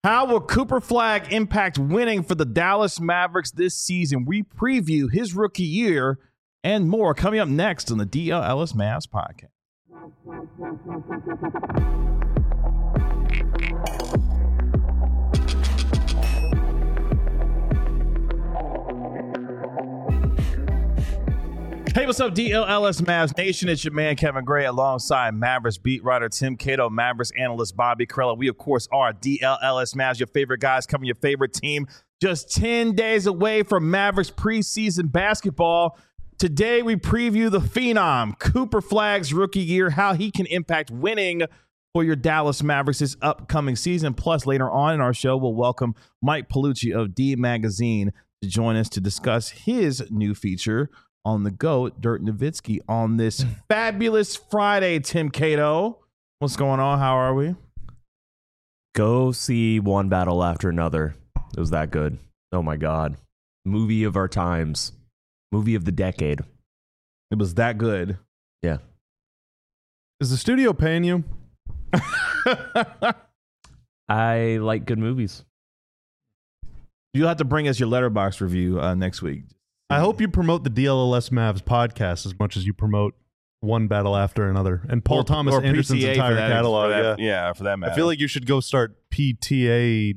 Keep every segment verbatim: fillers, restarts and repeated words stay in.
How will Cooper Flagg impact winning for the Dallas Mavericks this season? We preview his rookie year and more coming up next on the D L Ellis Mavs podcast. Hey, what's up, D L L S Mavs Nation? It's your man, Kevin Gray, alongside Mavericks beat writer Tim Cato, Mavericks analyst Bobby Karalla. We, of course, are D L L S Mavs, your favorite guys covering your favorite team. Just ten days away from Mavericks preseason basketball. Today, we preview the Phenom, Cooper Flagg's rookie year, how he can impact winning for your Dallas Mavericks this upcoming season. Plus, later on in our show, we'll welcome Mike Paolucci of D Magazine to join us to discuss his new feature on the GOAT, Dirk Nowitzki, on this fabulous Friday. Tim Cato, what's going on? How are we? Go see one battle after another. It was that good. Oh my God. Movie of our times. Movie of the decade. It was that good. Yeah. Is the studio paying you? I like good movies. You'll have to bring us your Letterboxd review uh, next week. I hope you promote the D L L S Mavs podcast as much as you promote one battle after another. And Paul or, Thomas or Anderson's P T A entire that, catalog. that, yeah. yeah, for that matter. I feel like you should go start P T A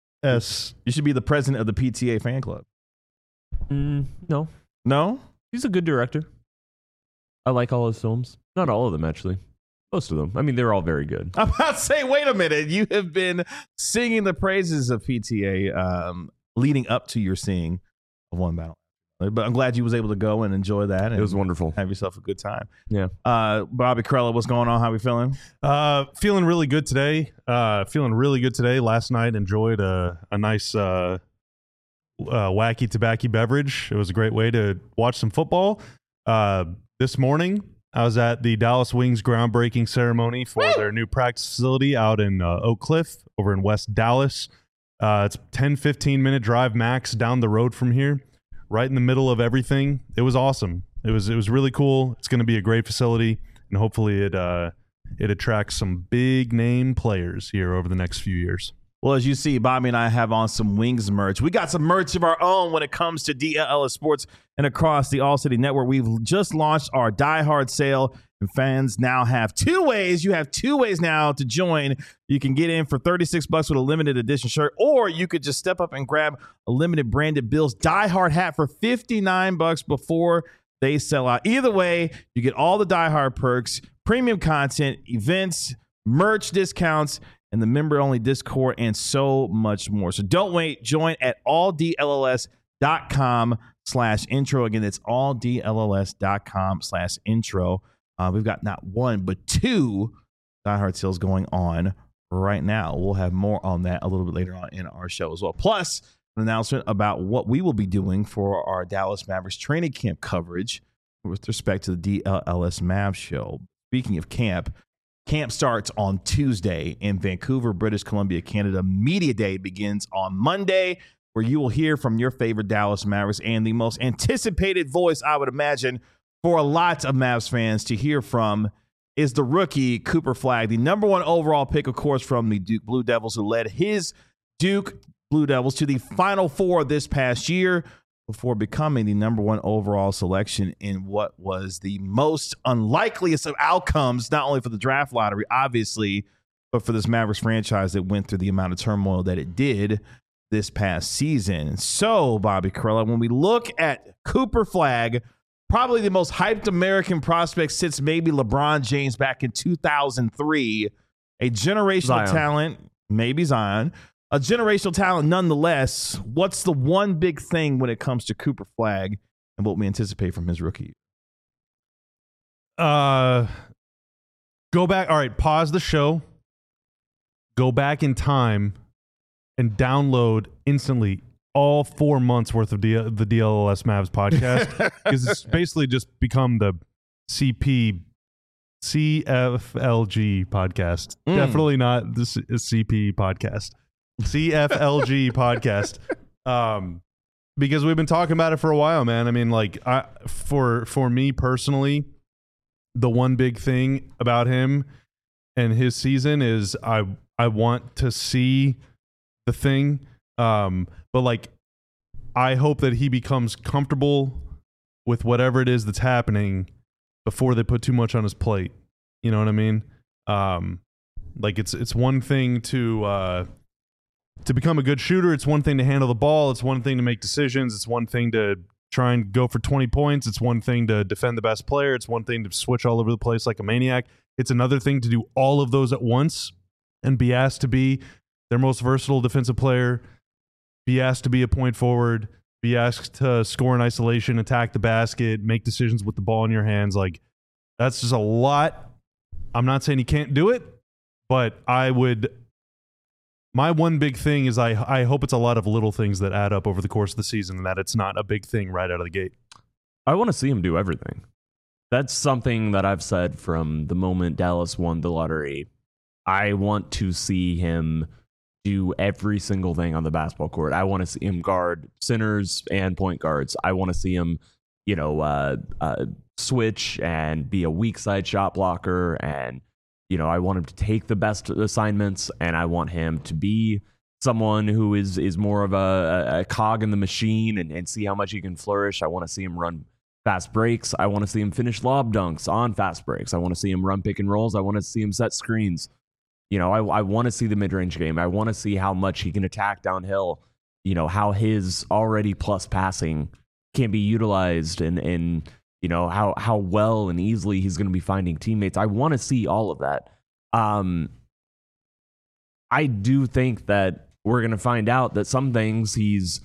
S. You should be the president of the P T A fan club. Mm, no. No? He's a good director. I like all his films. Not all of them, actually. Most of them. I mean, they're all very good. I'm about to say, wait a minute. You have been singing the praises of P T A um, leading up to your seeing of One Battle. But I'm glad you was able to go and enjoy that. And it was wonderful. Have yourself a good time. Yeah. Uh, Bobby Karalla, what's going on? How we feeling? Uh, feeling really good today. Uh, feeling really good today. Last night enjoyed a, a nice uh, uh, wacky tobacco beverage. It was a great way to watch some football. Uh, this morning, I was at the Dallas Wings groundbreaking ceremony for Woo! their new practice facility out in uh, Oak Cliff over in West Dallas. Uh, it's ten, fifteen minute drive max down the road from here. Right in the middle of everything. It was awesome. It was it was really cool. It's going to be a great facility, and hopefully it uh, it attracts some big name players here over the next few years. Well, as you see, Bobby and I have on some Wings merch. We got some merch of our own when it comes to D L L S Sports and across the All City Network. We've just launched our Die Hard sale, and fans now have two ways. You have two ways now to join. You can get in for thirty-six bucks with a limited edition shirt, or you could just step up and grab a limited branded Bills Die Hard hat for fifty-nine bucks before they sell out. Either way, you get all the Die Hard perks, premium content, events, merch discounts, and the member-only Discord, and so much more. So don't wait. Join at all D L L S dot com slash intro. Again, it's all D L L S dot com slash intro. Uh, we've got not one, but two Die Hard sales going on right now. We'll have more on that a little bit later on in our show as well. Plus, an announcement about what we will be doing for our Dallas Mavericks training camp coverage with respect to the D L L S Mavs show. Speaking of camp, camp starts on Tuesday in Vancouver, British Columbia, Canada. Media Day begins on Monday, where you will hear from your favorite Dallas Mavericks and the most anticipated voice, I would imagine, for a lot of Mavs fans to hear from is the rookie Cooper Flagg, the number one overall pick, of course, from the Duke Blue Devils, who led his Duke Blue Devils to the Final Four this past year before becoming the number one overall selection in what was the most unlikeliest of outcomes, not only for the draft lottery, obviously, but for this Mavericks franchise that went through the amount of turmoil that it did this past season. So, Bobby Karalla, when we look at Cooper Flagg, probably the most hyped American prospect since maybe LeBron James back in two thousand three, a generational Zion. talent, maybe Zion, a generational talent nonetheless. What's the one big thing when it comes to Cooper Flagg and what we anticipate from his rookie? Uh, go back. All right, pause the show. Go back in time and download instantly all four months worth of D- the D L L S Mavs podcast, because it's basically just become the C P C F L G podcast. Mm. Definitely not the C- C P podcast. C F L G podcast. Um, because we've been talking about it for a while, man. I mean, like, I for for me personally, the one big thing about him and his season is I I want to see the thing. Um, but like, I hope that he becomes comfortable with whatever it is that's happening before they put too much on his plate. You know what I mean? Um, like it's it's one thing to uh, to become a good shooter. It's one thing to handle the ball. It's one thing to make decisions. It's one thing to try and go for twenty points. It's one thing to defend the best player. It's one thing to switch all over the place like a maniac. It's another thing to do all of those at once and be asked to be their most versatile defensive player, be asked to be a point forward, be asked to score in isolation, attack the basket, make decisions with the ball in your hands. Like, that's just a lot. I'm not saying he can't do it, but I would – my one big thing is I, I hope it's a lot of little things that add up over the course of the season and that it's not a big thing right out of the gate. I want to see him do everything. That's something that I've said from the moment Dallas won the lottery. I want to see him – do every single thing on the basketball court. I want to see him guard centers and point guards. I want to see him, you know, uh, uh, switch and be a weak side shot blocker. And, you know, I want him to take the best assignments, and I want him to be someone who is is more of a, a cog in the machine and, and see how much he can flourish. I want to see him run fast breaks. I want to see him finish lob dunks on fast breaks. I want to see him run pick and rolls. I want to see him set screens. You know, I, I want to see the mid-range game. I want to see how much he can attack downhill, you know, how his already plus passing can be utilized and, and you know, how, how well and easily he's going to be finding teammates. I want to see all of that. Um, I do think that we're going to find out that some things he's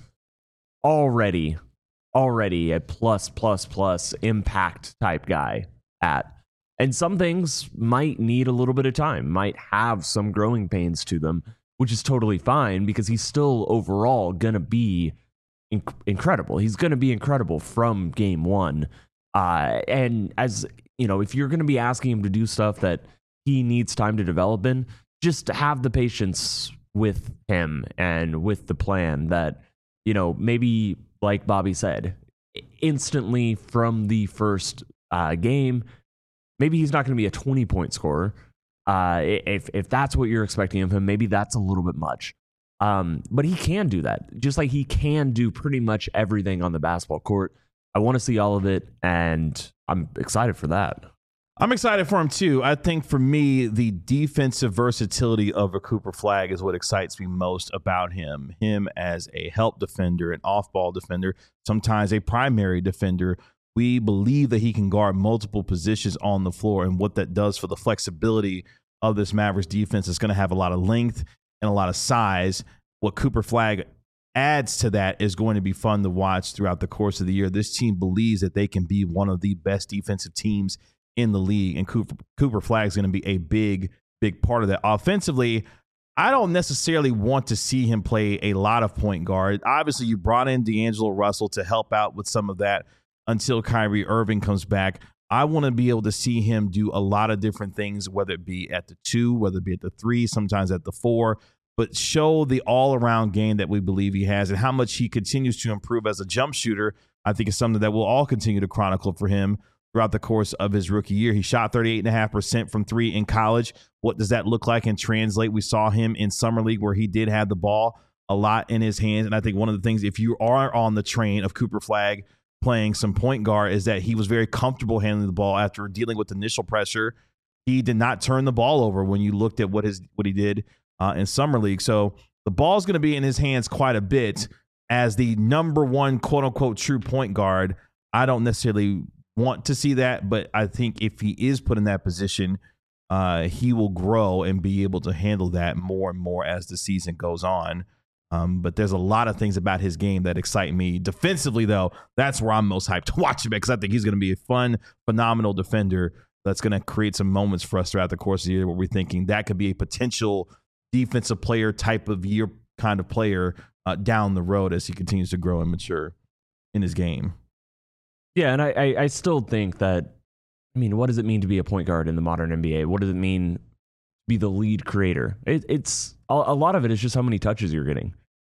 already, already a plus, plus, plus impact type guy at. And some things might need a little bit of time, might have some growing pains to them, which is totally fine because he's still overall going to be inc- incredible. He's going to be incredible from game one. Uh, and as you know, if you're going to be asking him to do stuff that he needs time to develop in, just have the patience with him and with the plan that, you know, maybe like Bobby said, instantly from the first uh, game, maybe he's not going to be a twenty-point scorer. Uh, if if that's what you're expecting of him, maybe that's a little bit much. Um, but he can do that, just like he can do pretty much everything on the basketball court. I want to see all of it, and I'm excited for that. I'm excited for him, too. I think, for me, the defensive versatility of a Cooper Flagg is what excites me most about him. Him as a help defender, an off-ball defender, sometimes a primary defender. We believe that he can guard multiple positions on the floor, and what that does for the flexibility of this Mavericks defense is going to have a lot of length and a lot of size. What Cooper Flagg adds to that is going to be fun to watch throughout the course of the year. This team believes that they can be one of the best defensive teams in the league, and Cooper, Cooper Flagg is going to be a big, big part of that. Offensively, I don't necessarily want to see him play a lot of point guard. Obviously, you brought in D'Angelo Russell to help out with some of that until Kyrie Irving comes back. I want to be able to see him do a lot of different things, whether it be at the two, whether it be at the three, sometimes at the four, but show the all-around game that we believe he has and how much he continues to improve as a jump shooter. I think is something that we'll all continue to chronicle for him throughout the course of his rookie year. He shot thirty-eight point five percent from three in college. What does that look like and translate? We saw him in Summer League where he did have the ball a lot in his hands, and I think one of the things, if you are on the train of Cooper Flagg playing some point guard, is that he was very comfortable handling the ball after dealing with initial pressure. He did not turn the ball over when you looked at what his what he did uh, in Summer League. So the ball's going to be in his hands quite a bit as the number one quote-unquote true point guard. I don't necessarily want to see that, but I think if he is put in that position, uh, he will grow and be able to handle that more and more as the season goes on. Um, but there's a lot of things about his game that excite me. Defensively, though, that's where I'm most hyped to watch him because I think he's going to be a fun, phenomenal defender that's going to create some moments for us throughout the course of the year where we're thinking that could be a potential defensive player type of year kind of player uh, down the road as he continues to grow and mature in his game. Yeah, and I, I, I still think that, I mean, what does it mean to be a point guard in the modern N B A? What does it mean to be the lead creator? It, it's a, a lot of it is just how many touches you're getting.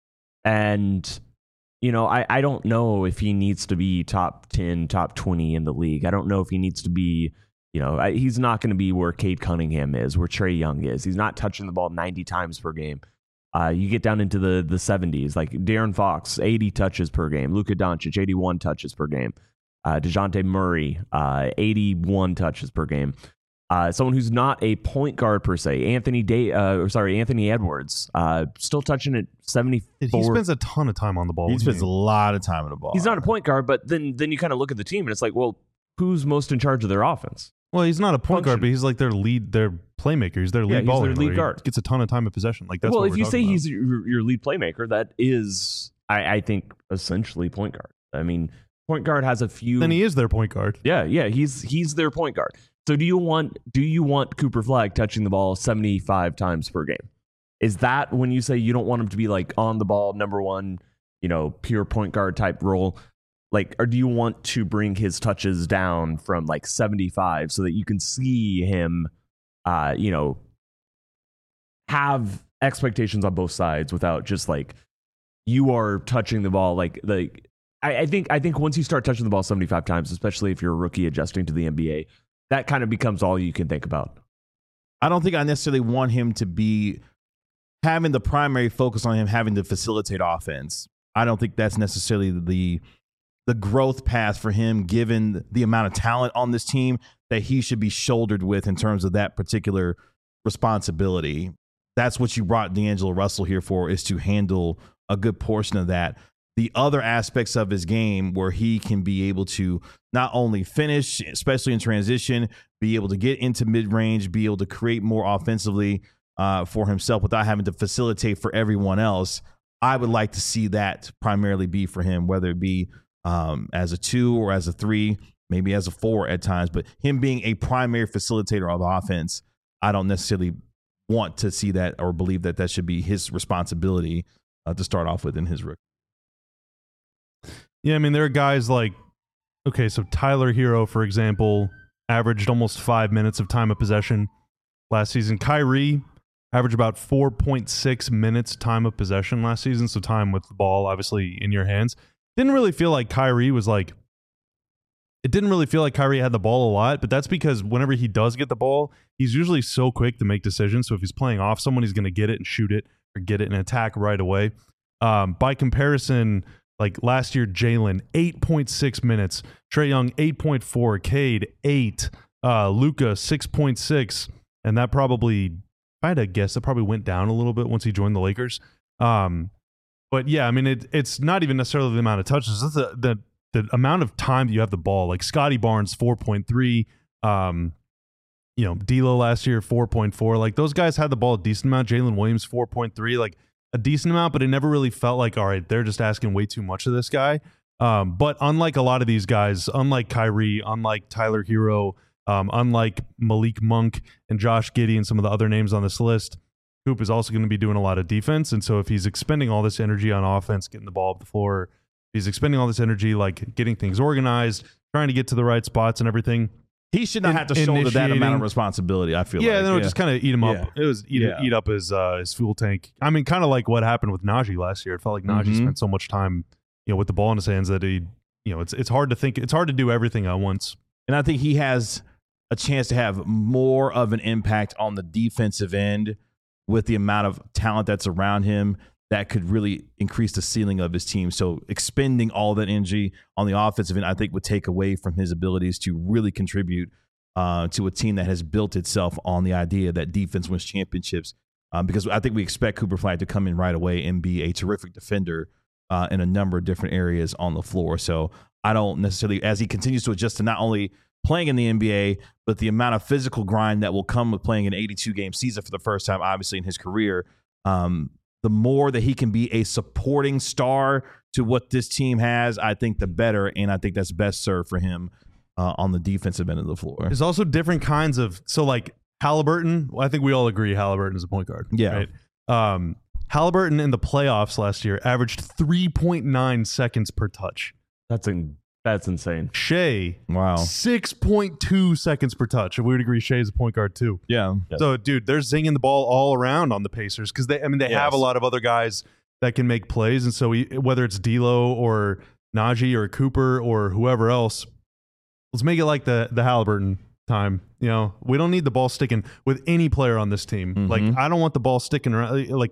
And, you know, I, I don't know if he needs to be top ten, top twenty in the league. I don't know if he needs to be, you know, I, he's not going to be where Cade Cunningham is, where Trae Young is. He's not touching the ball ninety times per game. Uh, you get down into the the seventies, like De'Aaron Fox, eighty touches per game. Luka Doncic, eighty-one touches per game. Uh, DeJounte Murray, uh, eighty-one touches per game. Uh, someone who's not a point guard per se, Anthony Day, uh, or sorry, Anthony Edwards, uh, still touching at seventy-four. He spends a ton of time on the ball. He spends a lot of time on the ball. He's not a point guard, but then then you kind of look at the team and it's like, well, who's most in charge of their offense? Well, he's not a point Function. guard, but he's like their lead, their playmaker. He's their lead Yeah, he's ball their handler. lead guard. He gets a ton of time of possession. Like that's well, what if we're you say talking about. he's your, your lead playmaker, that is, I, I think, essentially point guard. I mean, point guard has a few. then he is their point guard. Yeah, yeah, he's he's their point guard. So do you want do you want Cooper Flagg touching the ball seventy-five times per game? Is that when you say you don't want him to be like on the ball, number one, you know, pure point guard type role? Like, or do you want to bring his touches down from like seventy-five so that you can see him, uh, you know, have expectations on both sides without just like you are touching the ball like like I, I think I think once you start touching the ball seventy-five times, especially if you're a rookie adjusting to the N B A, that kind of becomes all you can think about. I don't think I necessarily want him to be having the primary focus on him having to facilitate offense. I don't think that's necessarily the the growth path for him, given the amount of talent on this team that he should be shouldered with in terms of that particular responsibility. That's what you brought D'Angelo Russell here for, is to handle a good portion of that. The other aspects of his game where he can be able to not only finish, especially in transition, be able to get into mid-range, be able to create more offensively uh, for himself without having to facilitate for everyone else. I would like to see that primarily be for him, whether it be um, as a two or as a three, maybe as a four at times. But him being a primary facilitator of offense, I don't necessarily want to see that or believe that that should be his responsibility uh, to start off with in his rookie. Yeah, I mean, there are guys like, okay, so Tyler Hero, for example, averaged almost five minutes of time of possession last season. Kyrie averaged about four point six minutes time of possession last season, so time with the ball, obviously, in your hands. Didn't really feel like Kyrie was like, it didn't really feel like Kyrie had the ball a lot, but that's because whenever he does get the ball, he's usually so quick to make decisions. So if he's playing off someone, he's going to get it and shoot it or get it and attack right away. Um, by comparison, like last year, Jalen, eight point six minutes. Trae Young, eight point four. Cade, eight. Uh, Luka, six point six. And that probably, if I had to guess, it probably went down a little bit once he joined the Lakers. Um, but yeah, I mean, it, it's not even necessarily the amount of touches. It's the, the, the amount of time that you have the ball. Like Scotty Barnes, four point three. Um, you know, D'Lo last year, four point four. Like those guys had the ball a decent amount. Jalen Williams, four point three. Like, a decent amount, but it never really felt like, all right, they're just asking way too much of this guy. Um, but unlike a lot of these guys, unlike Kyrie, unlike Tyler Hero, um, unlike Malik Monk and Josh Giddey and some of the other names on this list, Coop is also going to be doing a lot of defense. And so if he's expending all this energy on offense, getting the ball up the floor, if he's expending all this energy, like getting things organized, trying to get to the right spots and everything, he should not In, have to shoulder that amount of initiating. responsibility, I feel yeah, like. then it would just kind of eat him up. Yeah. It was eat, Yeah. eat up his uh, his fuel tank. I mean, kind of like what happened with Najee last year. It felt like Najee Mhm. spent so much time, you know, with the ball in his hands that he, you know, it's it's hard to think. It's hard to do everything at once. And I think he has a chance to have more of an impact on the defensive end with the amount of talent that's around him that could really increase the ceiling of his team. So expending all that energy on the offensive end, I think, would take away from his abilities to really contribute uh, to a team that has built itself on the idea that defense wins championships. Um, because I think we expect Cooper Flagg to come in right away and be a terrific defender uh, in a number of different areas on the floor. So I don't necessarily, as he continues to adjust to not only playing in the N B A, but the amount of physical grind that will come with playing an eighty-two game season for the first time, obviously, in his career, um, the more that he can be a supporting star to what this team has, I think the better. And I think that's best served for him uh, on the defensive end of the floor. There's also different kinds of, so like Halliburton, well, I think we all agree Halliburton is a point guard. Yeah. Right? Um, Halliburton in the playoffs last year averaged three point nine seconds per touch. That's in, that's insane. Shea, Wow. six point two seconds per touch. And we would agree Shea is a point guard too. Yeah. Yes. So, dude, they're zinging the ball all around on the Pacers because they, I mean, they Yes. have a lot of other guys that can make plays. And so, we, whether it's D'Lo or Najee or Cooper or whoever else, let's make it like the the Halliburton time. You know, we don't need the ball sticking with any player on this team. Mhm. Like, I don't want the ball sticking around. Like,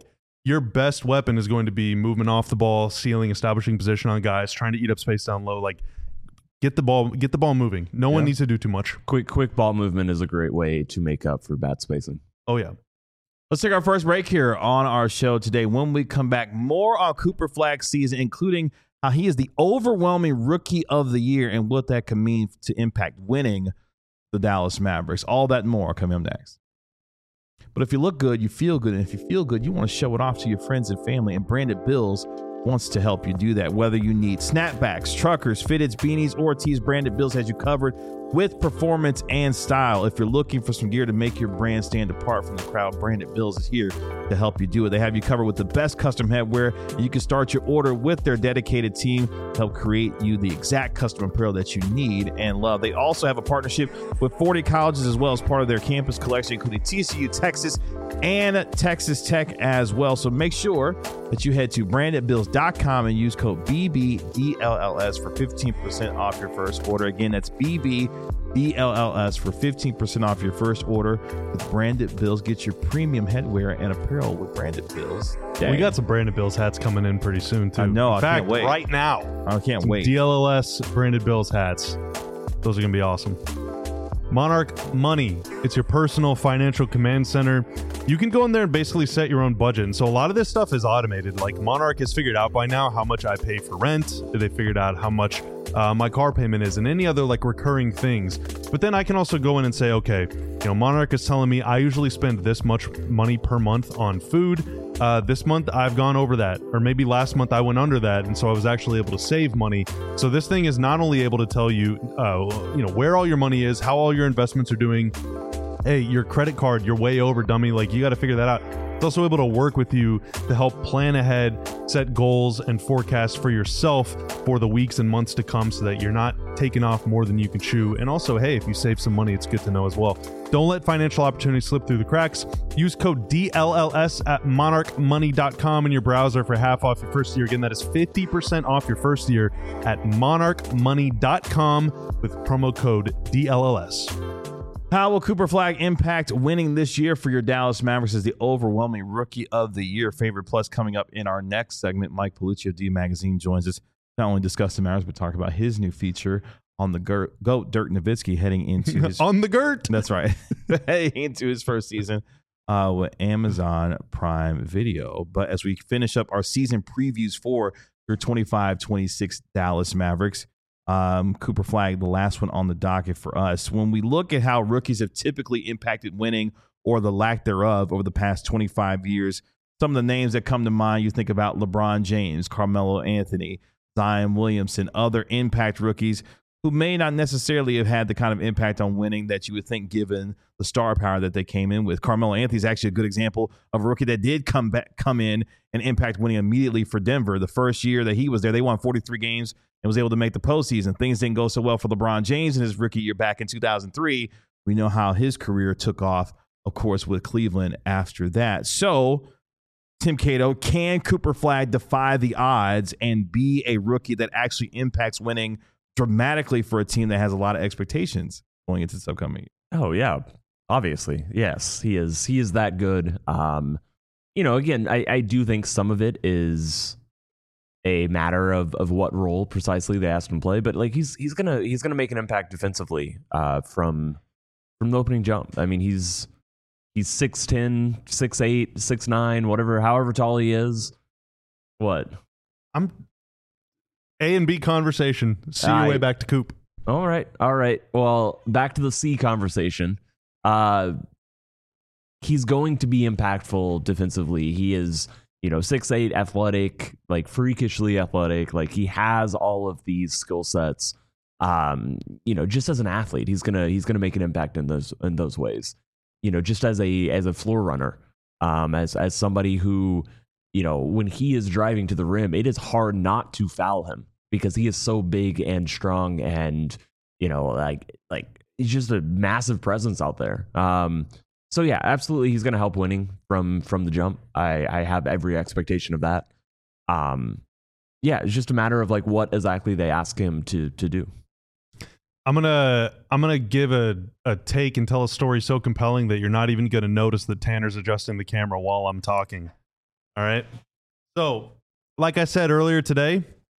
your best weapon is going to be movement off the ball, sealing, establishing position on guys, trying to eat up space down low. Like, get the ball, get the ball moving. No yeah. one needs to do too much. Quick, quick ball movement is a great way to make up for bad spacing. Oh yeah. Let's take our first break here on our show today. When we come back, more on Cooper Flagg's season, including how he is the overwhelming rookie of the year and what that can mean to impact winning the Dallas Mavericks. All that and more coming up next. But if you look good, you feel good. And if you feel good, you want to show it off to your friends and family. And Branded Bills wants to help you do that. Whether you need snapbacks, truckers, fitteds, beanies, or tees, Branded Bills has you covered with performance and style. If you're looking for some gear to make your brand stand apart from the crowd, Branded Bills is here to help you do it. They have you covered with the best custom headwear, and you can start your order with their dedicated team to help create you the exact custom apparel that you need and love. They also have a partnership with forty colleges as well as part of their campus collection, including T C U, Texas, and Texas Tech as well. So make sure that you head to branded bills dot com and use code B B D L L S for fifteen percent off your first order. Again, that's B B D L L S for fifteen percent off your first order with Branded Bills. Get your premium headwear and apparel with Branded Bills. Dang. We got some Branded Bills hats coming in pretty soon, too. I know. In I fact, can't wait. Right now. I can't some wait. D L L S Branded Bills hats. Those are going to be awesome. Monarch Money. It's your personal financial command center. You can go in there and basically set your own budget. And so a lot of this stuff is automated. Like Monarch has figured out by now how much I pay for rent. They figured out how much uh, my car payment is and any other like recurring things. But then I can also go in and say, okay, you know, Monarch is telling me I usually spend this much money per month on food. Uh, this month I've gone over that, or maybe last month I went under that, and so I was actually able to save money. So this thing is not only able to tell you, uh, you know, where all your money is, how all your investments are doing. Hey, your credit card, you're way over, dummy. Like, you got to figure that out. It's also able to work with you to help plan ahead, set goals and forecasts for yourself for the weeks and months to come so that you're not taking off more than you can chew. And also, hey, if you save some money, it's good to know as well. Don't let financial opportunities slip through the cracks. Use code D L L S at monarch money dot com in your browser for half off your first year. Again, that is fifty percent off your first year at monarch money dot com with promo code D L L S. How will Cooper Flagg impact winning this year for your Dallas Mavericks as the overwhelming rookie of the year? Favorite Plus coming up in our next segment. Mike Paolucci of D Magazine joins us, not only discuss the Mavericks, but talk about his new feature on the Gert, GOAT, Dirk Nowitzki, heading into his... on the Gert! That's right. Heading into his first season uh, with Amazon Prime Video. But as we finish up our season previews for your twenty-five twenty-six Dallas Mavericks, Um, Cooper Flagg, the last one on the docket for us. When we look at how rookies have typically impacted winning or the lack thereof over the past twenty-five years, some of the names that come to mind, you think about LeBron James, Carmelo Anthony, Zion Williamson, other impact rookies who may not necessarily have had the kind of impact on winning that you would think given the star power that they came in with. Carmelo Anthony is actually a good example of a rookie that did come back, come in and impact winning immediately for Denver. The first year that he was there, they won forty-three games and was able to make the postseason. Things didn't go so well for LeBron James in his rookie year back in two thousand three. We know how his career took off, of course, with Cleveland after that. So, Tim Cato, can Cooper Flagg defy the odds and be a rookie that actually impacts winning dramatically for a team that has a lot of expectations going into this upcoming year? Oh, yeah. Obviously, yes. He is He is that good. Um, you know, again, I, I do think some of it is a matter of of what role precisely they asked him to play, but like he's he's gonna he's gonna make an impact defensively uh, from from the opening jump. I mean, he's he's six ten, six eight, six nine, whatever, however tall he is. What? I'm A and B conversation. See your I, way back to Coop. All right, all right. Well, back to the C conversation. Uh, he's going to be impactful defensively. He is, you know, six eight, athletic, like freakishly athletic. Like he has all of these skill sets. Um, you know, just as an athlete, he's gonna he's gonna make an impact in those in those ways. You know, just as a as a floor runner, um, as as somebody who, you know, when he is driving to the rim, it is hard not to foul him because he is so big and strong, and you know, like like he's just a massive presence out there. Um, So yeah, absolutely, he's going to help winning from from the jump. I, I have every expectation of that. Um, yeah, it's just a matter of like what exactly they ask him to to do. I'm gonna I'm gonna give a a take and tell a story so compelling that you're not even gonna notice that Tanner's adjusting the camera while I'm talking. All right. So, like I said earlier today,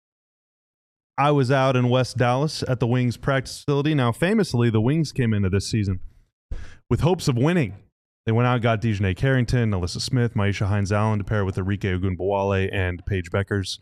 I was out in West Dallas at the Wings practice facility. Now, famously, the Wings came into this season with hopes of winning. They went out and got Dejanay Carrington, Alyssa Smith, Maisha Hines-Allen to pair with Enrique Ogunbowale and Paige Beckers.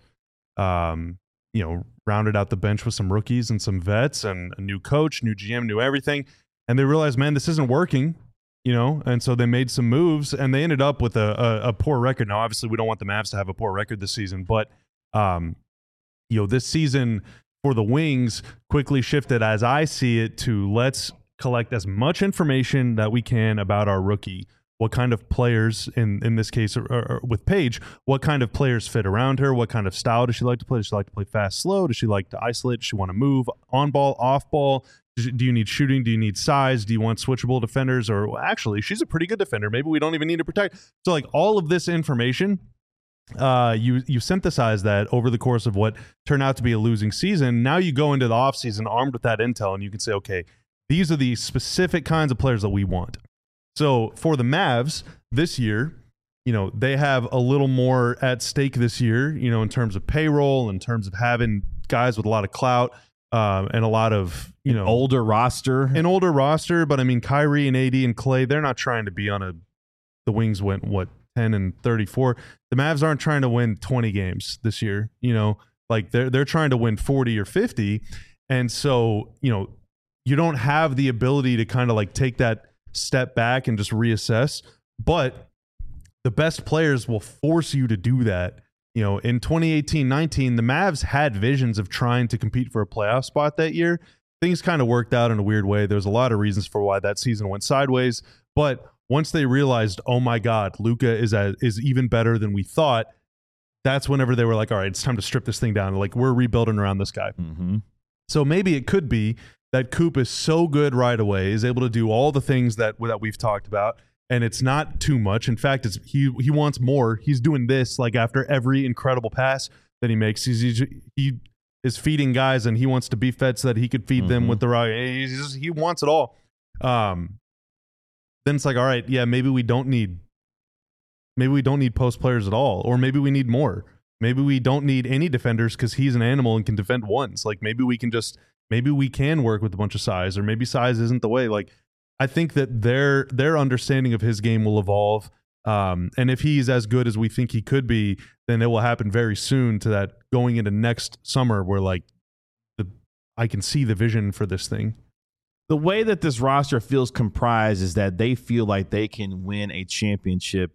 Um, you know, rounded out the bench with some rookies and some vets and a new coach, new G M, new everything. And they realized, man, this isn't working, you know, and so they made some moves and they ended up with a, a, a poor record. Now, obviously, we don't want the Mavs to have a poor record this season, but, um, you know, this season for the Wings quickly shifted, as I see it, to let's collect as much information that we can about our rookie. What kind of players, in, in this case or, or with Paige, what kind of players fit around her? What kind of style does she like to play? Does she like to play fast, slow? Does she like to isolate? Does she want to move on ball, off ball? Do you need shooting? Do you need size? Do you want switchable defenders? Or well, actually, she's a pretty good defender. Maybe we don't even need to protect. So like all of this information, uh, you you synthesize that over the course of what turned out to be a losing season. Now you go into the offseason armed with that intel and you can say, okay, these are the specific kinds of players that we want. So for the Mavs this year, you know, they have a little more at stake this year, you know, in terms of payroll, in terms of having guys with a lot of clout um, and a lot of, you know, older roster, an older roster. But I mean, Kyrie and A D and Clay, they're not trying to be on a, the Wings went, what, ten and thirty-four. The Mavs aren't trying to win twenty games this year, you know, like they're, they're trying to win forty or fifty. And so, you know, you don't have the ability to kind of like take that step back and just reassess, but the best players will force you to do that. You know, in twenty eighteen nineteen, the Mavs had visions of trying to compete for a playoff spot that year. Things kind of worked out in a weird way. There's a lot of reasons for why that season went sideways, but once they realized, oh my God, Luka is a, is even better than we thought, that's whenever they were like, all right, it's time to strip this thing down. Like, we're rebuilding around this guy. Mm-hmm. So maybe it could be that Coop is so good right away, is able to do all the things that that we've talked about, and it's not too much. In fact, it's he he wants more. He's doing this like after every incredible pass that he makes. He's, he's he is feeding guys, and he wants to be fed so that he could feed mm-hmm. them with the rock. He's just, he wants it all. Um, then it's like, all right, yeah, maybe we don't need maybe we don't need post players at all, or maybe we need more. Maybe we don't need any defenders because he's an animal and can defend ones. Like maybe we can just. Maybe we can work with a bunch of size, or maybe size isn't the way. Like, I think that their their understanding of his game will evolve. Um, and if he's as good as we think he could be, then it will happen very soon to that going into next summer where, like, the I can see the vision for this thing. The way that this roster feels comprised is that they feel like they can win a championship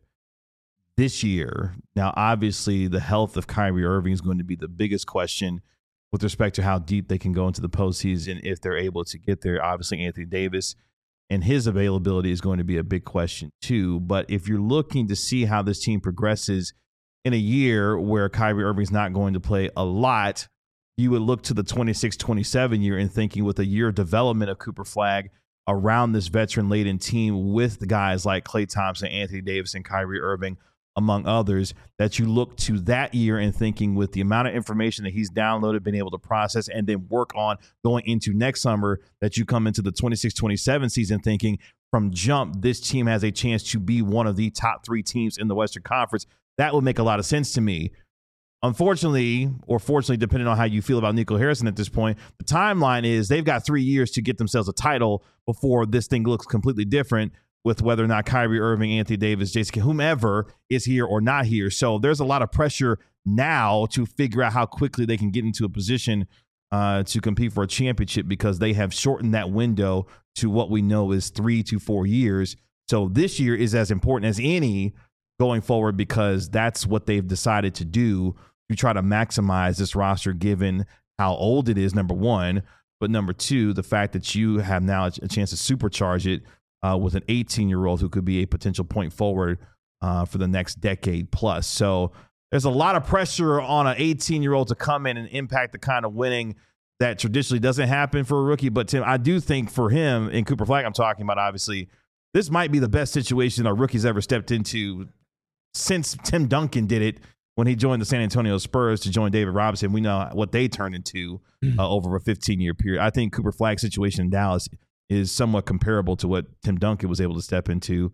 this year. Now, obviously, the health of Kyrie Irving is going to be the biggest question with respect to how deep they can go into the postseason if they're able to get there. Obviously, Anthony Davis and his availability is going to be a big question too. But if you're looking to see how this team progresses in a year where Kyrie Irving's not going to play a lot, you would look to the twenty-six twenty-seven year and thinking with a year of development of Cooper Flagg around this veteran-laden team with the guys like Klay Thompson, Anthony Davis, and Kyrie Irving, among others, that you look to that year and thinking with the amount of information that he's downloaded, been able to process, and then work on going into next summer, that you come into the twenty-six twenty-seven season thinking from jump, this team has a chance to be one of the top three teams in the Western Conference. That would make a lot of sense to me. Unfortunately, or fortunately, depending on how you feel about Nico Harrison at this point, the timeline is they've got three years to get themselves a title before this thing looks completely different, with whether or not Kyrie Irving, Anthony Davis, Jason, whomever is here or not here. So there's a lot of pressure now to figure out how quickly they can get into a position uh, to compete for a championship, because they have shortened that window to what we know is three to four years. So this year is as important as any going forward, because that's what they've decided to do to try to maximize this roster given how old it is, number one. But number two, the fact that you have now a chance to supercharge it Uh, with an eighteen-year-old who could be a potential point forward uh, for the next decade plus. So there's a lot of pressure on an eighteen-year-old to come in and impact the kind of winning that traditionally doesn't happen for a rookie. But, Tim, I do think for him, and Cooper Flagg I'm talking about, obviously, this might be the best situation our rookie's ever stepped into since Tim Duncan did it when he joined the San Antonio Spurs to join David Robinson. We know what they turned into uh, over a fifteen-year period. I think Cooper Flagg's situation in Dallas is somewhat comparable to what Tim Duncan was able to step into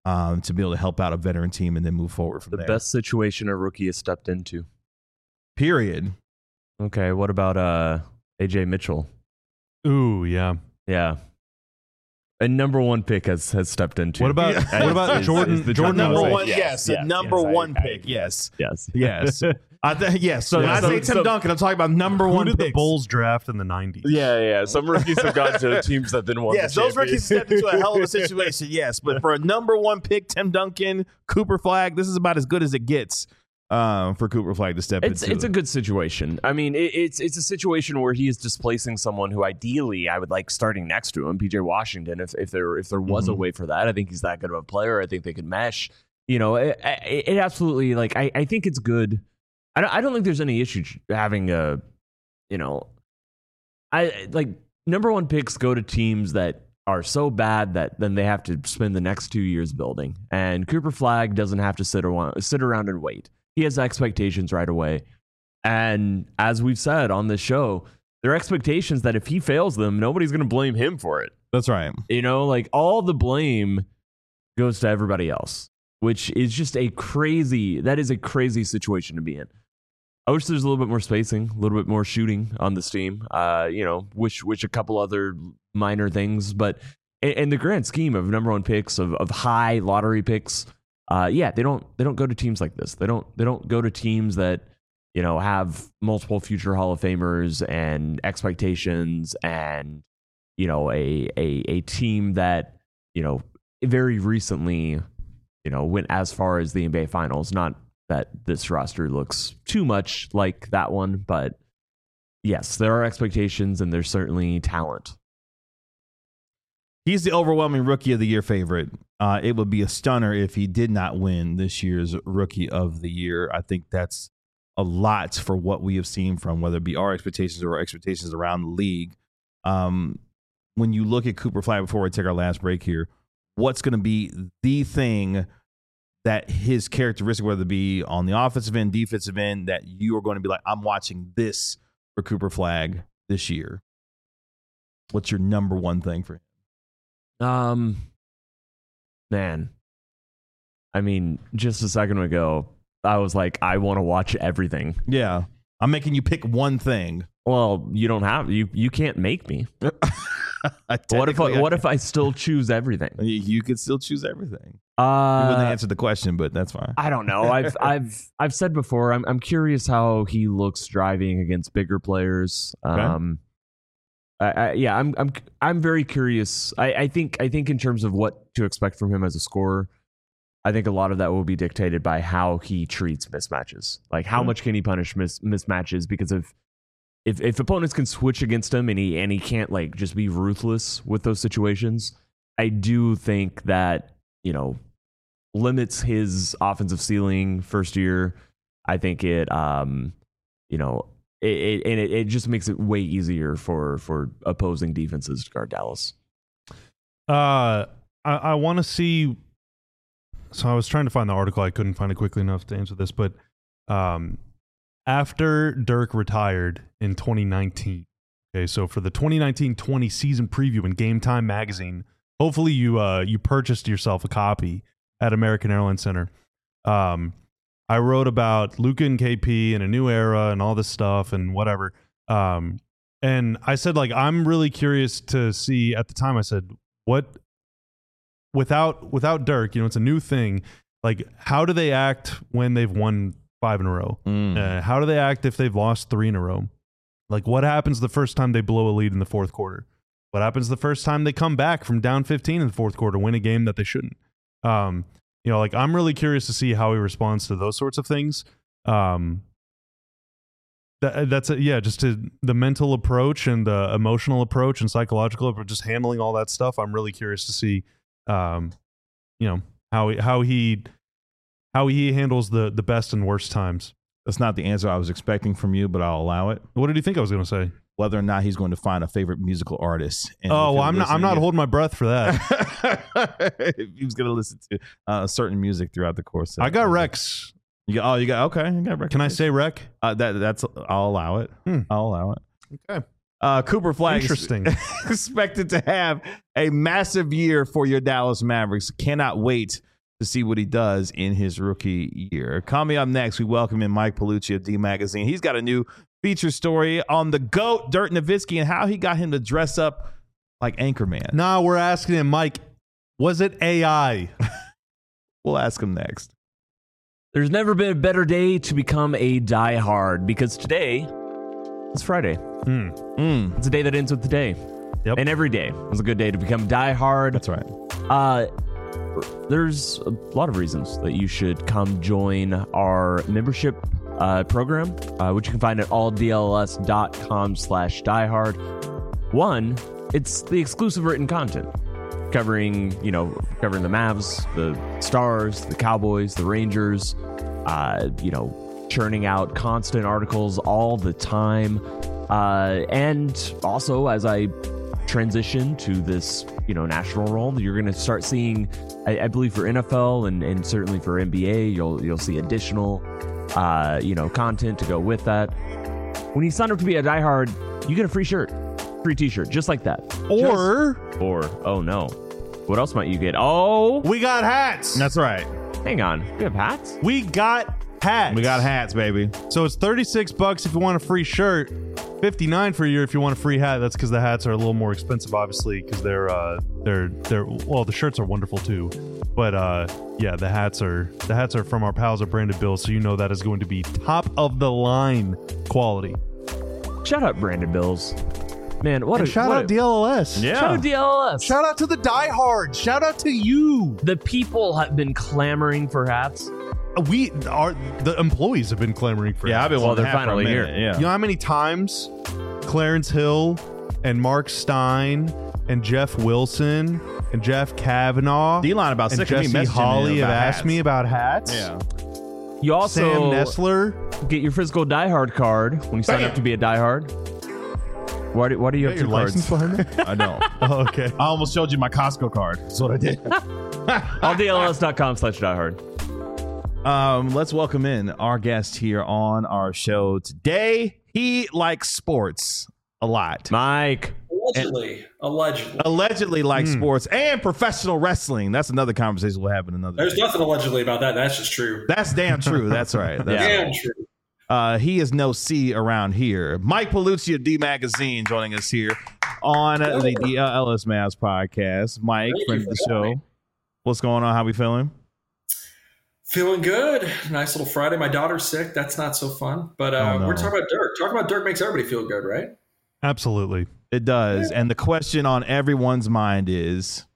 um, to be able to help out a veteran team and then move forward from The there. best situation a rookie has stepped into. Period. Okay, what about uh, A J Mitchell? Ooh, yeah. Yeah. A number one pick has, has stepped into. What about Yeah. what about Is- Jordan? is the Jordan number Love? one, Yes, yes, yes, a number yes, I- one I- pick, yes, Yes. yes. I th- yes. So when Yeah, I so- say Tim so- Duncan, I'm talking about number Who one did the picks. Bulls draft in the nineties? Yeah, yeah. Some rookies have gone to teams that then won. Yes, the those rookies stepped into a hell of a situation. Yes, but for a number one pick, Tim Duncan, Cooper Flag, this is about as good as it gets um, for Cooper Flag to step It's into. it's a good situation. I mean, it, it's it's a situation where he is displacing someone who ideally I would like starting next to him, P J Washington. If if there if there was a Mhm. way for that, I think he's that good of a player. I think they could mesh. You know, it, it, it absolutely like I, I think it's good. I don't I don't think there's any issue having a, you know, I like number one picks go to teams that are so bad that then they have to spend the next two years building. And Cooper Flag doesn't have to sit around sit around and wait. He has expectations right away. And as we've said on this show, there are expectations that if he fails them, nobody's going to blame him for it. That's right. You know, like all the blame goes to everybody else, which is just a crazy, that is a crazy situation to be in. I wish there's a little bit more spacing, a little bit more shooting on this team. Uh, you know, wish wish a couple other minor things, but in, in the grand scheme of number one picks, of of high lottery picks, uh, yeah, they don't they don't go to teams like this. They don't they don't go to teams that, you know, have multiple future Hall of Famers and expectations, and you know, a a a team that, you know, very recently, you know, went as far as the N B A Finals. Not that this roster looks too much like that one, but yes, there are expectations and there's certainly talent. He's the overwhelming Rookie of the Year favorite. Uh, it would be a stunner if he did not win this year's Rookie of the Year. I think that's a lot for what we have seen from whether it be our expectations or our expectations around the league. Um, when you look at Cooper Flag, before we take our last break here, what's going to be the thing that his characteristic, whether it be on the offensive end, defensive end, that you are going to be like, I'm watching this for Cooper Flag this year? What's your number one thing for him? Um, man, I mean, just a second ago, I was like, I want to watch everything. Yeah. I'm making you pick one thing. Well, you don't have you. You can't make me. What if I, what if I still choose everything? You, you could still choose everything. Uh, You wouldn't answer the question, but that's fine. I don't know. I've I've I've said before. I'm I'm curious how he looks driving against bigger players. Okay. Um, I, I, yeah, I'm I'm I'm very curious. I, I think I think in terms of what to expect from him as a scorer, I think a lot of that will be dictated by how he treats mismatches. Like how Mhm. much can he punish mis- mismatches? Because if if if opponents can switch against him and he and he can't like just be ruthless with those situations, I do think that, you know, limits his offensive ceiling first year. I think it, um, you know, it, it and it, it just makes it way easier for for opposing defenses to guard Dallas. Uh, I, I want to see. So I was trying to find the article. I couldn't find it quickly enough to answer this. But um, after Dirk retired in twenty nineteen, okay, so for the twenty nineteen twenty season preview in Game Time magazine, hopefully you uh, you purchased yourself a copy at American Airlines Center. Um, I wrote about Luka and K P and a new era and all this stuff and whatever. Um, and I said, like, I'm really curious to see. At the time, I said, what without without Dirk, you know, it's a new thing. Like, how do they act when they've won five in a row? Mm. Uh, how do they act if they've lost three in a row? Like, what happens the first time they blow a lead in the fourth quarter? What happens the first time they come back from down fifteen in the fourth quarter, win a game that they shouldn't? Um, you know, like, I'm really curious to see how he responds to those sorts of things. Um, that, that's a, yeah, just to the mental approach and the emotional approach and psychological approach, just handling all that stuff. I'm really curious to see, um, you know, how he, how he how he handles the the best and worst times. That's not the answer I was expecting from you, but I'll allow it. What did you think I was going to say? Whether or not he's going to find a favorite musical artist. And Oh, if well, he'll I'm not. I'm listen not to- holding my breath for that. if he was going to listen to uh, certain music throughout the course. Of, I got of- Rex. You got, oh, you got okay. You got Can I say Rec? uh, that? That's I'll allow it. Hmm. I'll allow it. Okay. Uh, Cooper Flag is Interesting. expected to have a massive year for your Dallas Mavericks. Cannot wait to see what he does in his rookie year. Coming up next, we welcome in Mike Paolucci of D Magazine. He's got a new feature story on the GOAT, Dirk Nowitzki, and how he got him to dress up like Anchorman. Nah, we're asking him, Mike, was it A I? We'll ask him next. There's never been a better day to become a diehard because today is Friday. Mm. Mm. It's a day that ends with today. Yep. And every day is a good day to become diehard. That's right. Uh, there's a lot of reasons that you should come join our membership uh, program, uh, which you can find at alldls.com slash diehard. One, it's the exclusive written content covering, you know, covering the Mavs, the Stars, the Cowboys, the Rangers, uh, you know, churning out constant articles all the time. Uh, and also, as I transition to this, you know, national role, you're going to start seeing, I, I believe for N F L and, and certainly for N B A, you'll you'll see additional, uh, you know, content to go with that. When you sign up to be a diehard, you get a free shirt, free T-shirt, just like that. Or, Just, or oh no, what else might you get? Oh, we got hats. That's right. hang on, we have hats. We got hats. We got hats, baby. So it's thirty-six bucks if you want a free shirt, fifty-nine for a year if you want a free hat. That's because the hats are a little more expensive, obviously, because they're uh they're they're well, the shirts are wonderful too, but uh yeah, the hats are the hats are from our pals at Branded Bills, so you know that is going to be top of the line quality. Shout out Brandon Bills, man. What And a shout what out a, D L L S. Yeah. Shout out D L L S. Shout out to the diehards. Shout out to you. The people have been clamoring for hats. We are the employees have been clamoring for. Yeah, hats. I've been Well, wanting they're to have for a finally minute, here. Yeah. You know how many times Clarence Hill and Mark Stein and Jeff Wilson and Jeff Kavanaugh D-line about and sick of me Jesse messaging Holly me have about asked hats. me about hats? Yeah. You also Sam Nestler. get your physical diehard card when you sign Bam. up to be a diehard. Why do, why do you have Got two your cards? license behind me? I don't. Oh, okay. I almost showed you my Costco card. That's what I did. all D L S dot com slash diehard. Um, let's welcome in our guest here on our show today. He likes sports a lot. Mike. Allegedly. Allegedly. Allegedly likes Hmm. sports and professional wrestling. That's another conversation we'll have in another There's day. nothing allegedly about that. That's just true. That's damn true. That's right. That's Yeah. Damn true. Uh, he is no C around here. Mike Paolucci of D Magazine joining us here on uh, the D L L S Mavs podcast. Mike, Thank friend you of the for show. having me. What's going on? How we feeling? Feeling good. Nice little Friday. My daughter's sick. That's not so fun. But uh, Oh, no. we're talking about Dirk. Talking about Dirk makes everybody feel good, right? Absolutely. It does. And the question on everyone's mind is,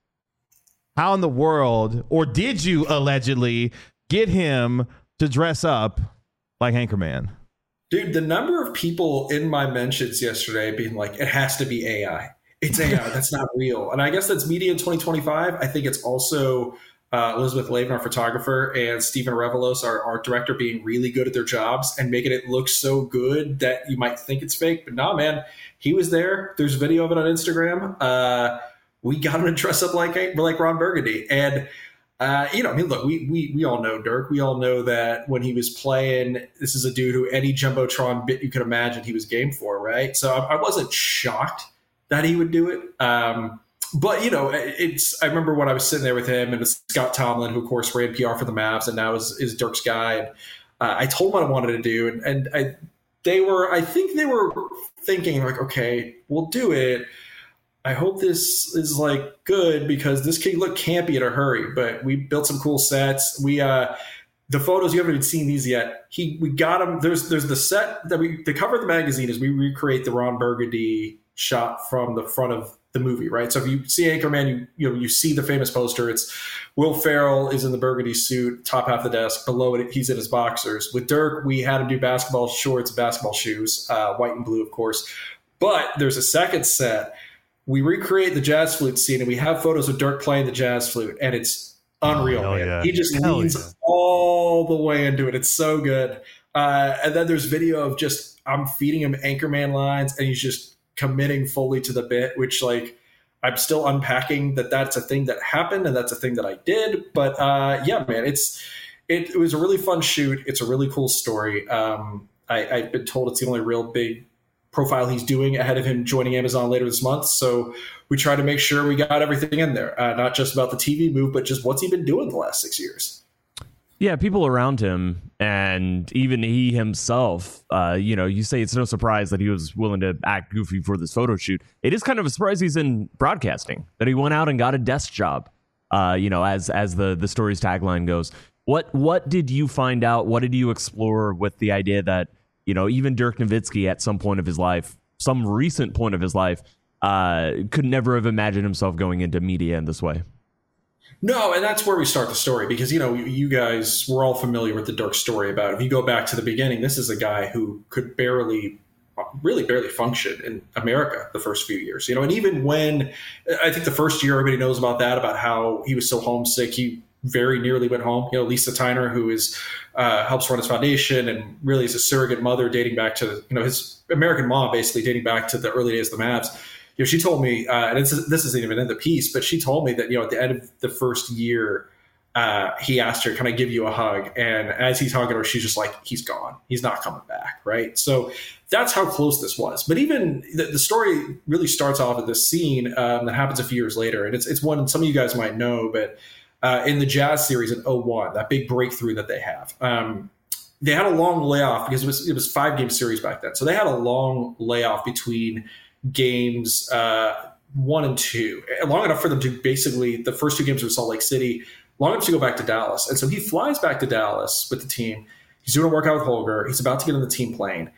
how in the world, or did you allegedly get him to dress up like Anchorman? Dude, the number of people in my mentions yesterday being like, it has to be A I. It's A I. That's not real. And I guess that's media in twenty twenty-five. I think it's also uh, Elizabeth Lavin, our photographer, and Stephen Revelos, our art director, being really good at their jobs and making it look so good that you might think it's fake. But nah, man, he was there. There's video of it on Instagram. Uh, we got him to dress up like like Ron Burgundy. And Uh, you know, I mean, look, we, we we all know Dirk. We all know that when he was playing, this is a dude who any Jumbotron bit you could imagine he was game for, right? So I, I wasn't shocked that he would do it. Um, but, you know, it's I remember when I was sitting there with him and Scott Tomlin, who, of course, ran P R for the Mavs and now is, is Dirk's guy. And uh, I told him what I wanted to do. And, and I, they were, I think they were thinking, like, okay, we'll do it. I hope this is like good because this can look campy in a hurry, but we built some cool sets. We, uh, the photos, you haven't even seen these yet. He, we got him. There's, there's the set that we, the cover of the magazine is we recreate the Ron Burgundy shot from the front of the movie, right? So if you see Anchorman, you, you know, you see the famous poster. It's Will Ferrell is in the Burgundy suit, top half of the desk. Below it, he's in his boxers. With Dirk, we had him do basketball shorts, basketball shoes, uh, white and blue, of course. But there's a second set. We recreate the jazz flute scene, and we have photos of Dirk playing the jazz flute, and it's unreal. Hell man. yeah. He just Hell leans yeah. all the way into it. It's so good. Uh, and then there's video of just I'm feeding him Anchorman lines, and he's just committing fully to the bit, which like I'm still unpacking that that's a thing that happened and that's a thing that I did. But uh, yeah, man, it's it, it was a really fun shoot. It's a really cool story. Um, I, I've been told it's the only real big profile he's doing ahead of him joining Amazon later this month. So we try to make sure we got everything in there, uh, not just about the T V move, but just what's he been doing the last six years. Yeah, people around him and even he himself, uh, you know, you say it's no surprise that he was willing to act goofy for this photo shoot. It is kind of a surprise he's in broadcasting, that he went out and got a desk job, uh, you know, as as the, the story's tagline goes. What what did you find out? What did you explore with the idea that, you know, even Dirk Nowitzki at some point of his life, some recent point of his life, uh, could never have imagined himself going into media in this way? No, and that's where we start the story because, you know, you guys, we're all familiar with the Dirk story about, if you go back to the beginning, this is a guy who could barely, really barely function in America the first few years, you know, and even when, I think the first year everybody knows about that, about how he was so homesick, he very nearly went home. You know, Lisa Tyner, who is uh, helps run his foundation and really is a surrogate mother dating back to, you know, his American mom, basically dating back to the early days of the Mavs. You know, she told me, uh, and it's, this isn't even in the piece, but she told me that, you know, at the end of the first year, uh, he asked her, can I give you a hug? And as he's hugging her, she's just like, he's gone. He's not coming back. Right. So that's how close this was. But even the, the story really starts off at this scene um, that happens a few years later. And it's, it's one some of you guys might know, but uh, in the Jazz series in oh one, that big breakthrough that they have, um, they had a long layoff because it was, it was five game series back then. So they had a long layoff between games uh, one and two, long enough for them to basically, the first two games were Salt Lake City, long enough to go back to Dallas. And so he flies back to Dallas with the team. He's doing a workout with Holger. He's about to get on the team plane.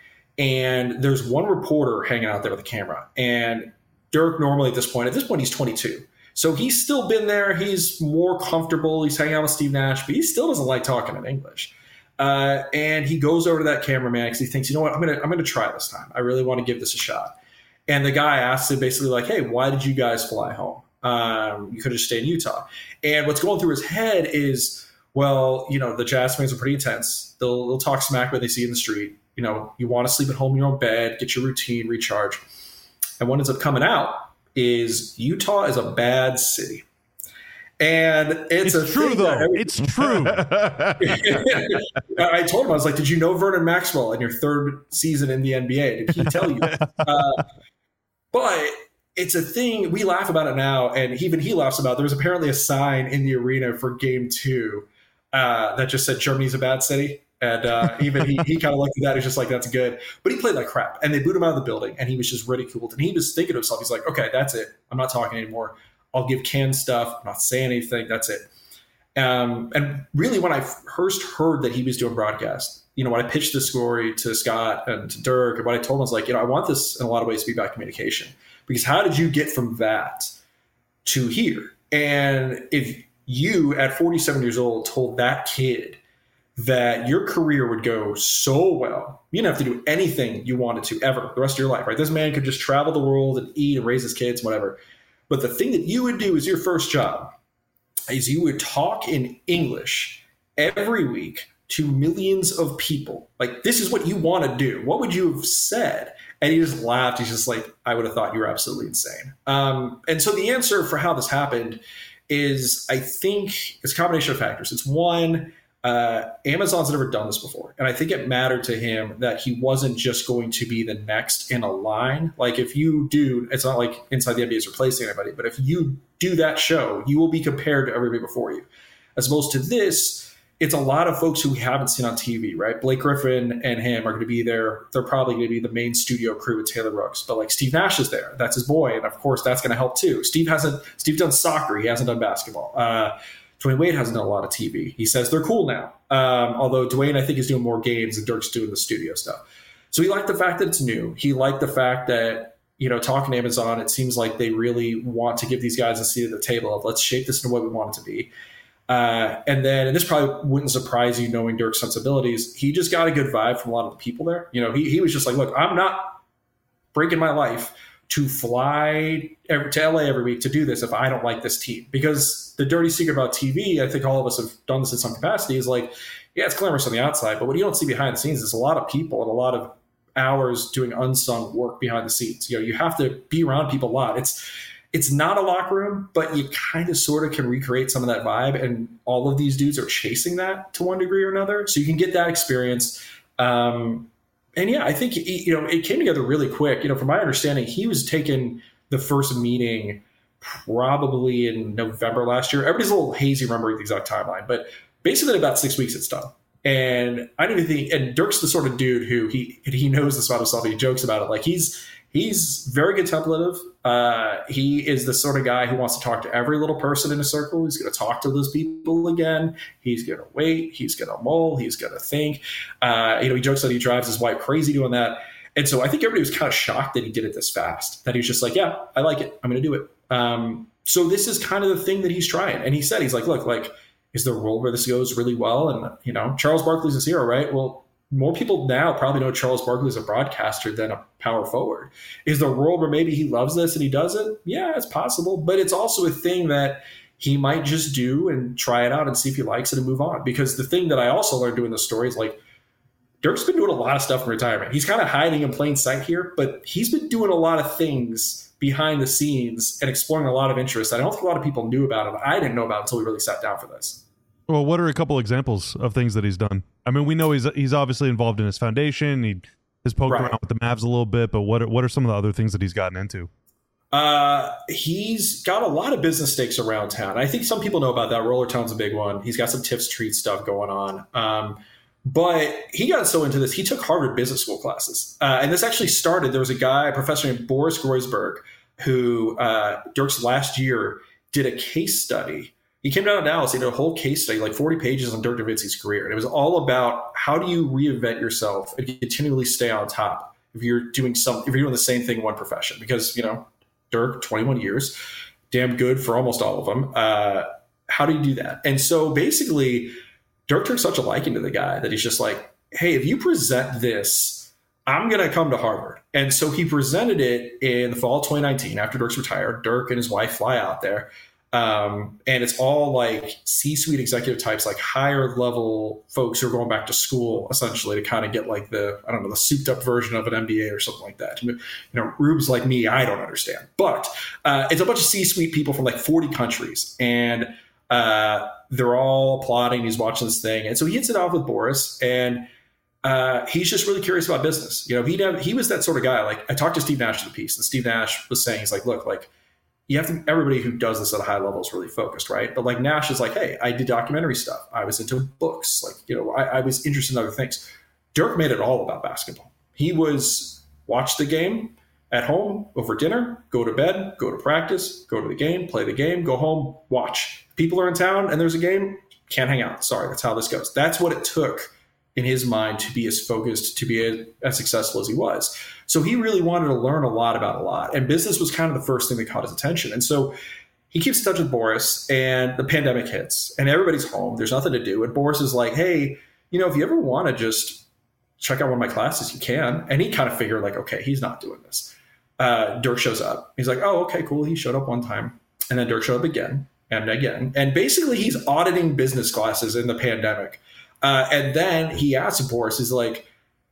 And there's one reporter hanging out there with a camera. And Dirk normally at this point, at this point, he's twenty-two. So he's still been there. He's more comfortable. He's hanging out with Steve Nash, but he still doesn't like talking in English. Uh, and he goes over to that cameraman because he thinks, you know what, I'm going to I'm going to try this time. I really want to give this a shot. And the guy asks him basically like, hey, why did you guys fly home? Um, you could have stayed in Utah. And what's going through his head is, well, you know, the Jazz fans are pretty intense. They'll, they'll talk smack when they see you in the street. You know, you want to sleep at home in your own bed, get your routine, recharge. And what ends up coming out is Utah is a bad city. And it's, it's a true, though. Every- it's true. I told him, I was like, did you know Vernon Maxwell in your third season in the N B A? Did he tell you? uh, but it's a thing. We laugh about it now. And even he laughs about it. There was apparently a sign in the arena for game two uh, that just said Germany's a bad city. And uh, even he, he kind of looked at that. He's just like, that's good. But he played like crap. And they booed him out of the building. And he was just ridiculed. And he was thinking to himself, he's like, okay, that's it. I'm not talking anymore. I'll give canned stuff. I'm not saying anything. That's it. Um, and really, when I first heard that he was doing broadcast, you know, when I pitched the story to Scott and to Dirk, and what I told him was like, you know, I want this in a lot of ways to be about communication. Because how did you get from that to here? And if you, at forty-seven years old, told that kid that your career would go so well, you didn't have to do anything you wanted to ever the rest of your life, right? This man could just travel the world and eat and raise his kids, whatever. But the thing that you would do as your first job is you would talk in English every week to millions of people. Like, this is what you want to do. What would you have said? And he just laughed. He's just like, I would have thought you were absolutely insane. Um, and so the answer for how this happened is, I think it's a combination of factors. It's one, uh, Amazon's never done this before. And I think it mattered to him that he wasn't just going to be the next in a line. Like, if you do, it's not like Inside the N B A is replacing anybody, but if you do that show, you will be compared to everybody before you. As opposed to this, it's a lot of folks who we haven't seen on T V, right? Blake Griffin and him are going to be there. They're probably going to be the main studio crew with Taylor Rooks. But like, Steve Nash is there. That's his boy. And of course, that's going to help too. Steve hasn't, Steve done soccer. He hasn't done basketball. Uh, Dwayne Wade hasn't done a lot of T V. He says they're cool now. Um, although Dwayne, I think, is doing more games and Dirk's doing the studio stuff. So he liked the fact that it's new. He liked the fact that, you know, talking to Amazon, it seems like they really want to give these guys a seat at the table of, let's shape this into what we want it to be. Uh, and then, and this probably wouldn't surprise you knowing Dirk's sensibilities, he just got a good vibe from a lot of the people there. You know, he, he was just like, look, I'm not breaking my life to fly every, to L A every week to do this if I don't like this team. Because the dirty secret about T V, I think all of us have done this in some capacity, is like, yeah, it's glamorous on the outside, but what you don't see behind the scenes is a lot of people and a lot of hours doing unsung work behind the scenes. You know, you have to be around people a lot. It's it's not a locker room, but you kind of sort of can recreate some of that vibe. And all of these dudes are chasing that to one degree or another. So you can get that experience. Um, and yeah, I think he, you know it came together really quick. You know, from my understanding, he was taking the first meeting probably in November last year. Everybody's a little hazy remembering the exact timeline, but basically in about six weeks it's done. And I don't even think, and Dirk's the sort of dude who he he knows this about himself. He jokes about it. Like he's he's very good templative. Uh, he is the sort of guy who wants to talk to every little person in a circle. He's going to talk to those people again. He's going to wait. He's going to mull. He's going to think. Uh, you know, he jokes that he drives his wife crazy doing that. And so I think everybody was kind of shocked that he did it this fast. That he was just like, yeah, I like it. I'm going to do it. Um, so this is kind of the thing that he's trying. And he said, he's like, look, like, is there a world where this goes really well? And, you know, Charles Barkley's his hero, right? Well, more people now probably know Charles Barkley as a broadcaster than a power forward. Is there a world where maybe he loves this and he does it? Yeah, it's possible. But it's also a thing that he might just do and try it out and see if he likes it and move on. Because the thing that I also learned doing this story is like, Dirk's been doing a lot of stuff in retirement. He's kind of hiding in plain sight here, but he's been doing a lot of things behind the scenes and exploring a lot of interests. I don't think a lot of people knew about it. I didn't know about it until we really sat down for this. Well, what are a couple examples of things that he's done? I mean, we know he's he's obviously involved in his foundation. He has poked Right. around with the Mavs a little bit, but what are, what are some of the other things that he's gotten into? Uh, he's got a lot of business stakes around town. I think some people know about that. Roller Town's a big one. He's got some Tips Treat stuff going on. Um, but he got so into this, he took Harvard Business School classes. Uh, and this actually started, there was a guy, a professor named Boris Groysberg, who uh, Dirk's last year did a case study. He came down to Dallas, he did a whole case study, like forty pages on Dirk Nowitzki's career. And it was all about how do you reinvent yourself and continually stay on top if you're doing some, if you're doing the same thing in one profession. Because, you know, Dirk, twenty-one years, damn good for almost all of them. Uh, how do you do that? And so basically, Dirk took such a liking to the guy that he's just like, hey, if you present this, I'm going to come to Harvard. And so he presented it in the fall of twenty nineteen after Dirk's retired. Dirk and his wife fly out there. Um, and it's all like C-suite executive types, like higher level folks who are going back to school, essentially, to kind of get like the, I don't know, the souped up version of an M B A or something like that. You know, rubes like me, I don't understand. But uh, it's a bunch of C-suite people from like forty countries. And uh, they're all applauding. He's watching this thing. And so he hits it off with Boris. And uh, he's just really curious about business. You know, he he was that sort of guy. Like I talked to Steve Nash of the piece, and Steve Nash was saying, he's like, look, like, you have to, everybody who does this at a high level is really focused, right? But like Nash is like, hey, I did documentary stuff. I was into books. Like, you know, I, I was interested in other things. Dirk made it all about basketball. He was watch the game at home over dinner, go to bed, go to practice, go to the game, play the game, go home, watch. People are in town and there's a game, can't hang out. Sorry, that's how this goes. That's what it took in his mind to be as focused, to be as, as successful as he was. So he really wanted to learn a lot about a lot. And business was kind of the first thing that caught his attention. And so he keeps in touch with Boris, and the pandemic hits and everybody's home. There's nothing to do. And Boris is like, hey, you know, if you ever want to just check out one of my classes, you can. And he kind of figured like, okay, he's not doing this. Uh, Dirk shows up. He's like, oh, okay, cool. He showed up one time. And then Dirk showed up again and again. And basically he's auditing business classes in the pandemic. Uh, and then he asks Boris, he's like,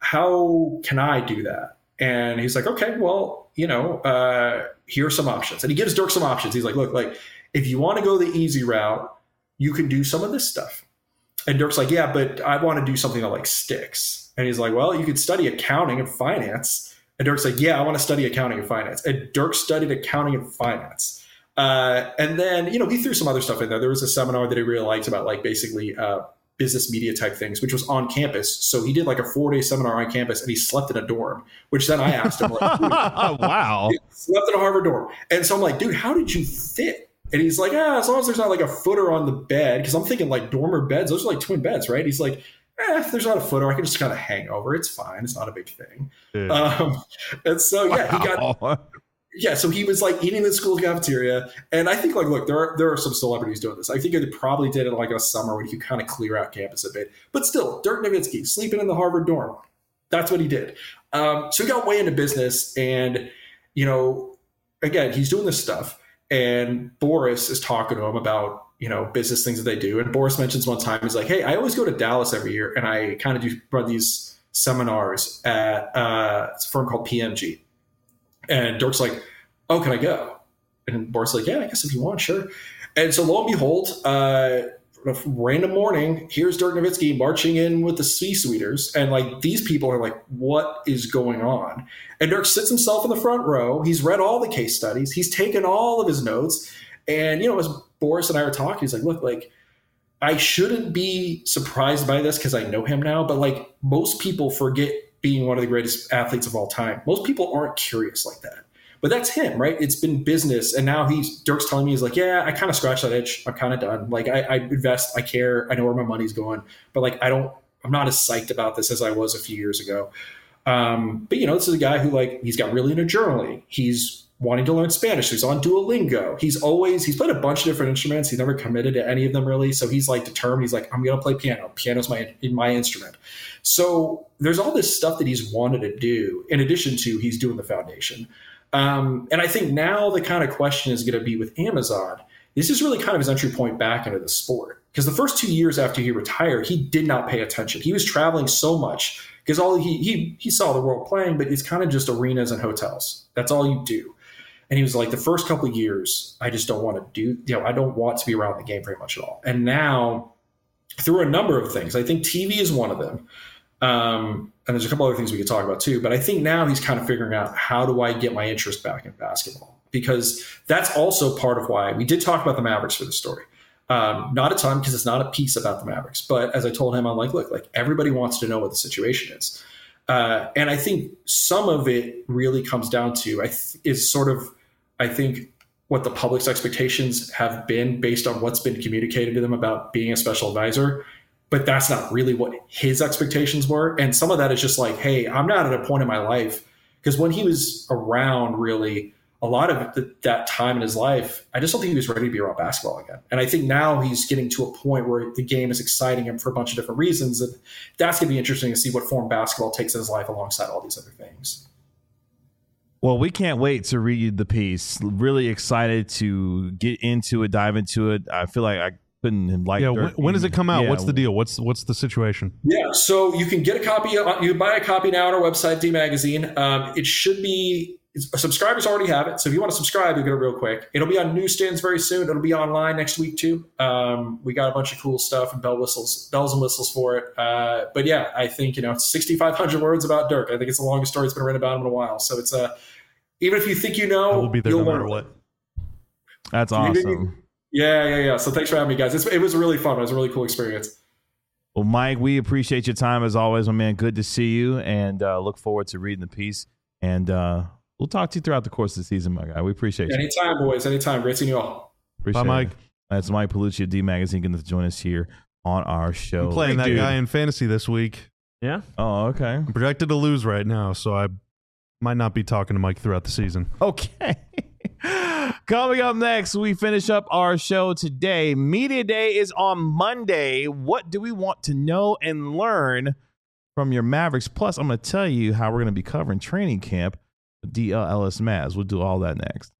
how can I do that? And he's like, okay, well, you know, uh, here are some options. And he gives Dirk some options. He's like, look, like, if you want to go the easy route, you can do some of this stuff. And Dirk's like, yeah, but I want to do something that like sticks. And he's like, well, you could study accounting and finance. And Dirk's like, yeah, I want to study accounting and finance. And Dirk studied accounting and finance. Uh, and then, you know, he threw some other stuff in there. There was a seminar that he really liked about like basically uh, business media type things, which was on campus. So he did like a four day seminar on campus and he slept in a dorm, which then I asked him, like, Wow. slept in a Harvard dorm. And so I'm like, dude, how did you fit? And he's like, ah, as long as there's not like a footer on the bed, because I'm thinking like dormer beds, those are like twin beds, right? He's like, eh, if there's not a footer, I can just kind of hang over. It's fine. It's not a big thing. Yeah. Um, and so, yeah, he got, Wow. yeah, so he was like eating in the school cafeteria. And I think like, look, there are, there are some celebrities doing this. I think they probably did it like in a summer when you could kind of clear out campus a bit. But still, Dirk Nowitzki sleeping in the Harvard dorm. That's what he did. Um, so he got way into business. And, you know, again, he's doing this stuff. And Boris is talking to him about, you know, business things that they do. And Boris mentions one time, he's like, hey, I always go to Dallas every year. And I kind of do run these seminars at uh, it's a firm called P M G. And Dirk's like, oh, can I go? And Boris is like, yeah, I guess if you want, sure. And so lo and behold, uh, a random morning, here's Dirk Nowitzki marching in with the C-suiters. And like, these people are like, what is going on? And Dirk sits himself in the front row. He's read all the case studies. He's taken all of his notes. And, you know, as Boris and I were talking, he's like, look, like, I shouldn't be surprised by this because I know him now. But like, most people forget being one of the greatest athletes of all time. Most people aren't curious like that. But that's him, right? It's been business. And now he's Dirk's telling me, he's like, yeah, I kind of scratched that itch. I'm kind of done. Like, I, I invest, I care, I know where my money's going. But like, I don't, I'm not as psyched about this as I was a few years ago. Um, but, you know, this is a guy who, like, he's got really into journaling. He's wanting to learn Spanish. He's on Duolingo. He's always, he's played a bunch of different instruments. He's never committed to any of them really. So he's like determined. He's like, I'm going to play piano. Piano's my, my instrument. So there's all this stuff that he's wanted to do in addition to he's doing the foundation. Um, and I think now the kind of question is going to be with Amazon. This is really kind of his entry point back into the sport. Because the first two years after he retired, he did not pay attention. He was traveling so much because all he, he, he saw the world playing, but it's kind of just arenas and hotels. That's all you do. And he was like, the first couple of years, I just don't want to do, you know, I don't want to be around the game very much at all. And now through a number of things, I think T V is one of them. Um, and there's a couple other things we could talk about too, but I think now he's kind of figuring out, how do I get my interest back in basketball? Because that's also part of why we did talk about the Mavericks for the story. Um, not a ton, because it's not a piece about the Mavericks, but as I told him, I'm like, look, like, everybody wants to know what the situation is. Uh, and I think some of it really comes down to, I th- is sort of, I think, what the public's expectations have been based on what's been communicated to them about being a special advisor. But that's not really what his expectations were. And some of that is just like, hey, I'm not at a point in my life. Because when he was around, really, a lot of the, that time in his life, I just don't think he was ready to be around basketball again. And I think now he's getting to a point where the game is exciting him for a bunch of different reasons. And that's going to be interesting to see what form basketball takes in his life alongside all these other things. Well, we can't wait to read the piece. Really excited to get into it, dive into it. I feel like I couldn't like. Yeah, when, when does it come out? Yeah. What's the deal? What's what's the situation? Yeah, so you can get a copy. You can buy a copy now on our website, D Magazine. Um, it should be. Subscribers already have it, so if you want to subscribe, you get it real quick. It'll be on newsstands very soon. It'll be online next week too. Um, we got a bunch of cool stuff and bell whistles, bells and whistles for it. Uh, but yeah, I think, you know, it's sixty-five hundred words about Dirk. I think it's the longest story that's been written about him in a while. So it's a uh, even if you think you know, I will be there you'll no matter learn. what. That's awesome. Yeah, yeah, yeah. So thanks for having me, guys. It's, it was really fun. It was a really cool experience. Well, Mike, we appreciate your time as always, my man. Good to see you, and uh, look forward to reading the piece. And uh, we'll talk to you throughout the course of the season, my guy. We appreciate you. Anytime, boys. Anytime. Great seeing you all. Appreciate Bye, Mike. It. That's Mike Palucci of D Magazine going to join us here on our show. I'm playing Big that dude. guy in fantasy this week. Yeah. Oh, okay. I'm projected to lose right now, so I might not be talking to Mike throughout the season. Okay. Coming up next, we finish up our show today. Media Day is on Monday. What do we want to know and learn from your Mavericks? Plus, I'm going to tell you how we're going to be covering training camp with D L Ellis Mavs. We'll do all that next.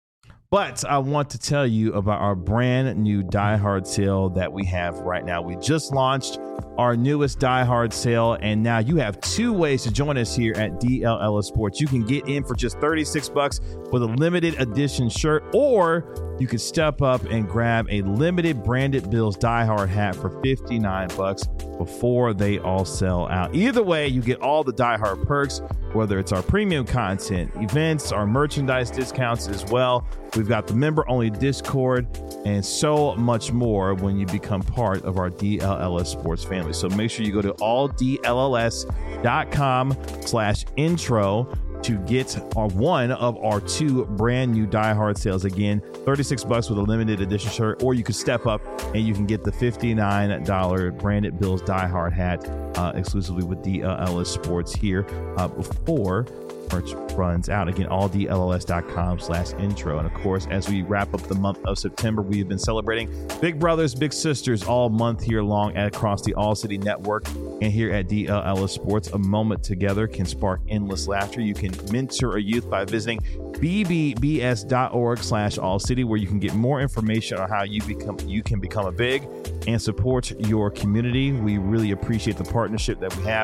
But I want to tell you about our brand new Die Hard sale that we have right now. We just launched our newest Die Hard sale, and now you have two ways to join us here at D L Ellis Sports. You can get in for just thirty-six bucks with a limited edition shirt, or you can step up and grab a limited Branded Bills Die Hard hat for fifty-nine bucks before they all sell out. Either way, you get all the Die Hard perks, whether it's our premium content, events, our merchandise discounts as well. We've got the member-only Discord and so much more when you become part of our D L L S Sports family. So make sure you go to all D L L S dot com slash intro to get our one of our two brand new Die Hard sales. Again, thirty-six bucks with a limited edition shirt, or you could step up and you can get the fifty-nine dollars Branded Bills Die Hard hat uh, exclusively with D L L S Sports here uh, before merch runs out. Again, all D L L S dot com slash intro. And of course, as we wrap up the month of September, we have been celebrating Big Brothers, Big Sisters all month here long across the All City Network. And here at D L L S Sports, a moment together can spark endless laughter. You can mentor a youth by visiting b b b s dot org slash all city, where you can get more information on how you become you can become a big and support your community. We really appreciate the partnership that we have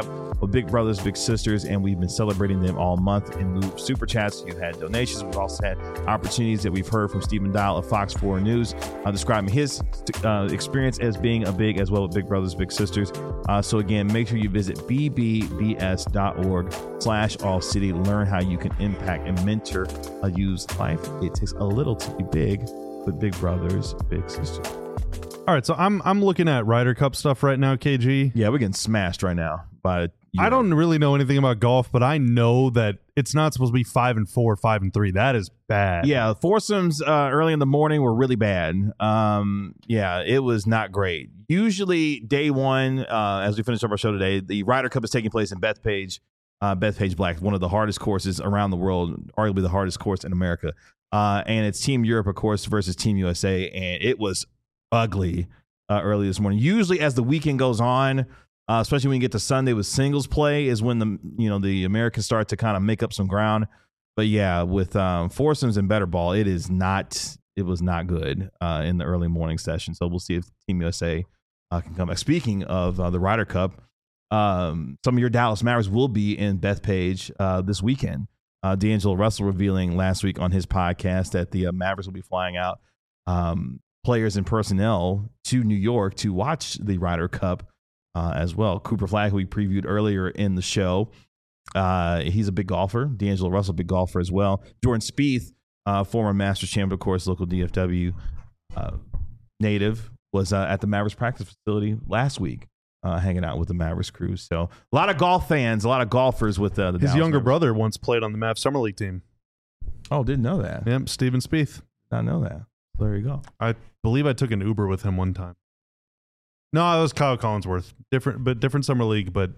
with Big Brothers Big Sisters, and we've been celebrating them all month in lieu of super chats. You've had donations. We've also had opportunities that we've heard from Stephen Dial of Fox four News uh, describing his uh, experience as being a big as well with Big Brothers Big Sisters. Uh, so again, make sure you visit b b b s dot org slash all city. Learn how you can impact and mentor a youth's life. It takes a little to be big with Big Brothers Big Sisters. All right, so I'm I'm looking at Ryder Cup stuff right now, K G. Yeah, we're getting smashed right now by. I don't really know anything about golf, but I know that it's not supposed to be five and four, five and three. That is bad. Yeah, foursomes uh, early in the morning were really bad. Um, yeah, it was not great. Usually, day one, uh, as we finish up our show today, the Ryder Cup is taking place in Bethpage, uh, Bethpage Black, one of the hardest courses around the world, arguably the hardest course in America. Uh, and it's Team Europe, of course, versus Team U S A, and it was ugly uh, early this morning. Usually, as the weekend goes on, uh, especially when you get to Sunday with singles play, is when the you know the Americans start to kind of make up some ground. But yeah, with um, foursomes and better ball, it is not. It was not good uh, in the early morning session. So we'll see if Team U S A uh, can come back. Speaking of uh, the Ryder Cup, um, some of your Dallas Mavericks will be in Bethpage uh, this weekend. Uh, D'Angelo Russell revealing last week on his podcast that the uh, Mavericks will be flying out. Um, players and personnel to New York to watch the Ryder Cup uh, as well. Cooper Flagg, who we previewed earlier in the show, uh, he's a big golfer. D'Angelo Russell, big golfer as well. Jordan Spieth, uh, former Masters champion, of course, local D F W uh, native, was uh, at the Mavericks practice facility last week, uh, hanging out with the Mavericks crew. So a lot of golf fans, a lot of golfers with uh, the His Dallas younger Mavericks. brother once played on the Mavs Summer League team. Oh, didn't know that. Yep, Stephen Spieth. Not know that. There you go. I believe I took an Uber with him one time. No, it was Kyle Collinsworth. Different, but different summer league. But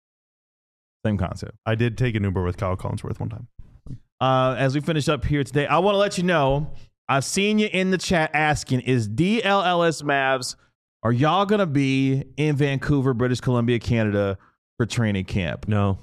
Same concept. I did take an Uber with Kyle Collinsworth one time. Uh, as we finish up here today, I want to let you know, I've seen you in the chat asking, is D L L S Mavs, are y'all going to be in Vancouver, British Columbia, Canada for training camp? No.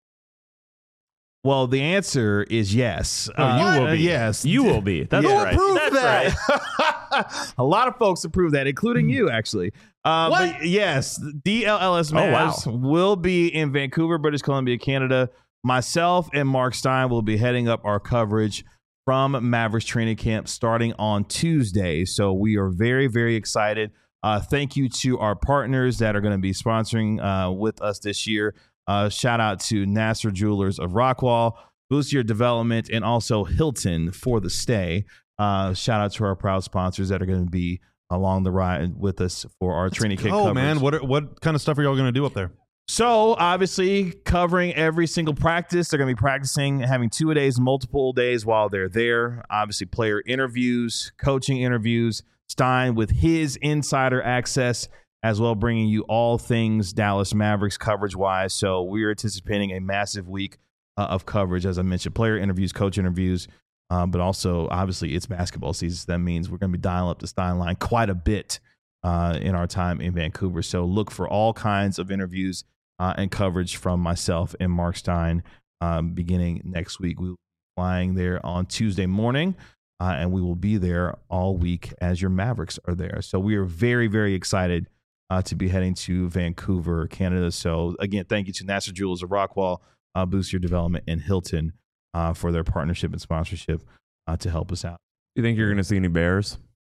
Well, the answer is yes. Oh, you Uh, will be. Yes. You will be. That's Yeah. right. Prove That's that. right. A lot of folks approve that, including you, actually. Uh, What? But yes, D L L S Oh, wow. Mavs will be in Vancouver, British Columbia, Canada. Myself and Mark Stein will be heading up our coverage from Mavericks training camp starting on Tuesday. So we are very, very excited. Uh, thank you to our partners that are going to be sponsoring uh, with us this year. Uh, shout out to Nasser Jewelers of Rockwall, Boost Your Development, and also Hilton for the stay. Uh, shout out to our proud sponsors that are going to be along the ride with us for our training camp Oh coverage. man, what are, what kind of stuff are y'all going to do up there? So obviously covering every single practice. They're going to be practicing, having two a days, multiple days while they're there. Obviously player interviews, coaching interviews, Stein with his insider access as well, bringing you all things Dallas Mavericks coverage wise. So we're anticipating a massive week uh, of coverage. As I mentioned, player interviews, coach interviews, um, but also obviously it's basketball season. So that means we're going to be dialing up the Stein line quite a bit uh, in our time in Vancouver. So look for all kinds of interviews Uh, and coverage from myself and Mark Stein um, beginning next week. We'll be flying there on Tuesday morning, uh, and we will be there all week as your Mavericks are there. So we are very, very excited uh, to be heading to Vancouver, Canada. So again, thank you to Nasser Jewelers of Rockwall, uh, Boost Your Development, and Hilton uh, for their partnership and sponsorship uh, to help us out. You think you're going to see any bears?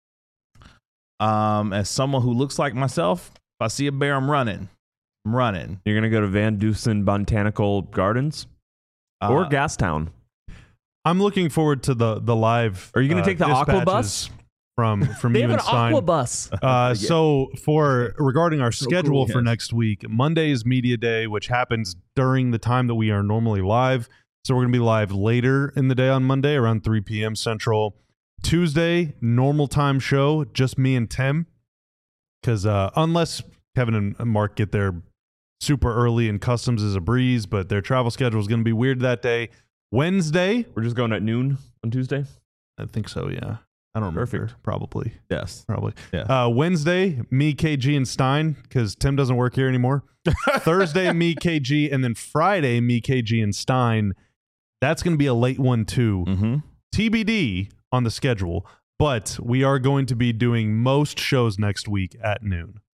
Um, as someone who looks like myself, if I see a bear, I'm running. I'm running. You're going to go to Van Dusen Botanical Gardens or Uh, Gastown? I'm looking forward to the the live. Are you going to uh, take the aqua dispatches bus? from from They you have an and Stein? aqua bus. Uh, so for regarding our schedule cool, for yes. next week, Monday is media day, which happens during the time that we are normally live. So we're going to be live later in the day on Monday around three p.m. Central. Tuesday, normal time show, just me and Tim. Because uh, unless Kevin and Mark get there super early and customs is a breeze, but their travel schedule is going to be weird that day. Wednesday, We're just going at noon on Tuesday. I think so, yeah. I don't remember. Perfect. Probably. Yes. Probably. Yeah. Uh, Wednesday, me, K G, and Stein, because Tim doesn't work here anymore. Thursday, me, K G, and then Friday, me, K G, and Stein. That's going to be a late one, too. Mm-hmm. T B D on the schedule, but we are going to be doing most shows next week at noon.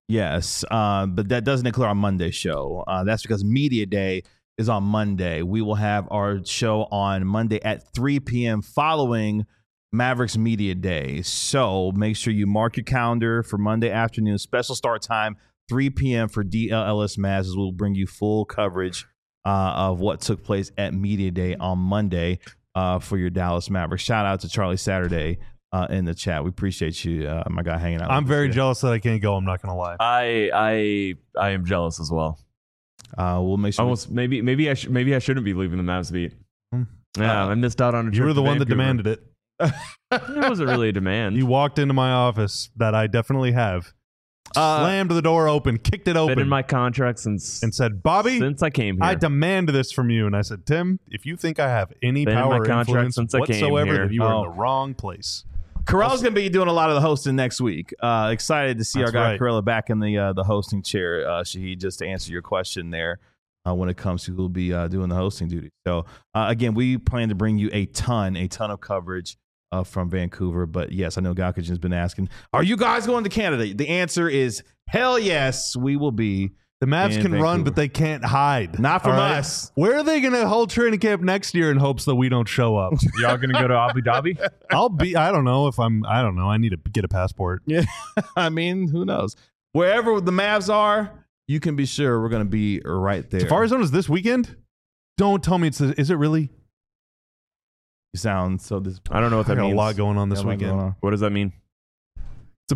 Yes, uh, but that doesn't include our Monday show. Uh, that's because Media Day is on Monday. We will have our show on Monday at three p.m. following Mavericks Media Day. So make sure you mark your calendar for Monday afternoon. Special start time, three p.m. for D L L S Mavs. We'll bring you full coverage uh, of what took place at Media Day on Monday uh, for your Dallas Mavericks. Shout out to Charlie Saturday uh, in the chat. We appreciate you, uh, my guy, hanging out. I'm with very us jealous that I can't go. I'm not going to lie. I I I am jealous as well. Uh, we'll make sure. Almost maybe maybe I sh- maybe I shouldn't be leaving the Mavs beat. Hmm. Yeah, Uh, I missed out on a trip. You were the to one that Vancouver. demanded it. It wasn't really a demand. You walked into my office that I definitely have, Uh, slammed the door open, kicked it been open, in my contract since and said, "Bobby, since I came here. I demand this from you." And I said, "Tim, if you think I have any Been in power my or contract influence since I came whatsoever, here. then you are Oh. in the wrong place." Corral's going to be doing a lot of the hosting next week. Uh, excited to see That's our guy right. Corella back in the uh, the hosting chair, uh, Shahid, just to answer your question there uh, when it comes to who'll be uh, doing the hosting duty. So, uh, again, we plan to bring you a ton, a ton of coverage uh, from Vancouver. But, yes, I know Galkajan has been asking, are you guys going to Canada? The answer is hell yes, we will be. The Mavs In can run, Vancouver. but they can't hide. Not from All right? us. Where are they going to hold training camp next year in hopes that we don't show up? Y'all gonna go to Abu Dhabi? I'll be. I don't know if I'm. I don't know. I need to get a passport. Yeah, I mean, who knows? Wherever the Mavs are, you can be sure we're going to be right there. Safari Zone is this weekend. Don't tell me it's. Is it really? You sound so disappointed. I don't know what I that got means. a lot going on this Got a lot weekend. going on. What does that mean? It's a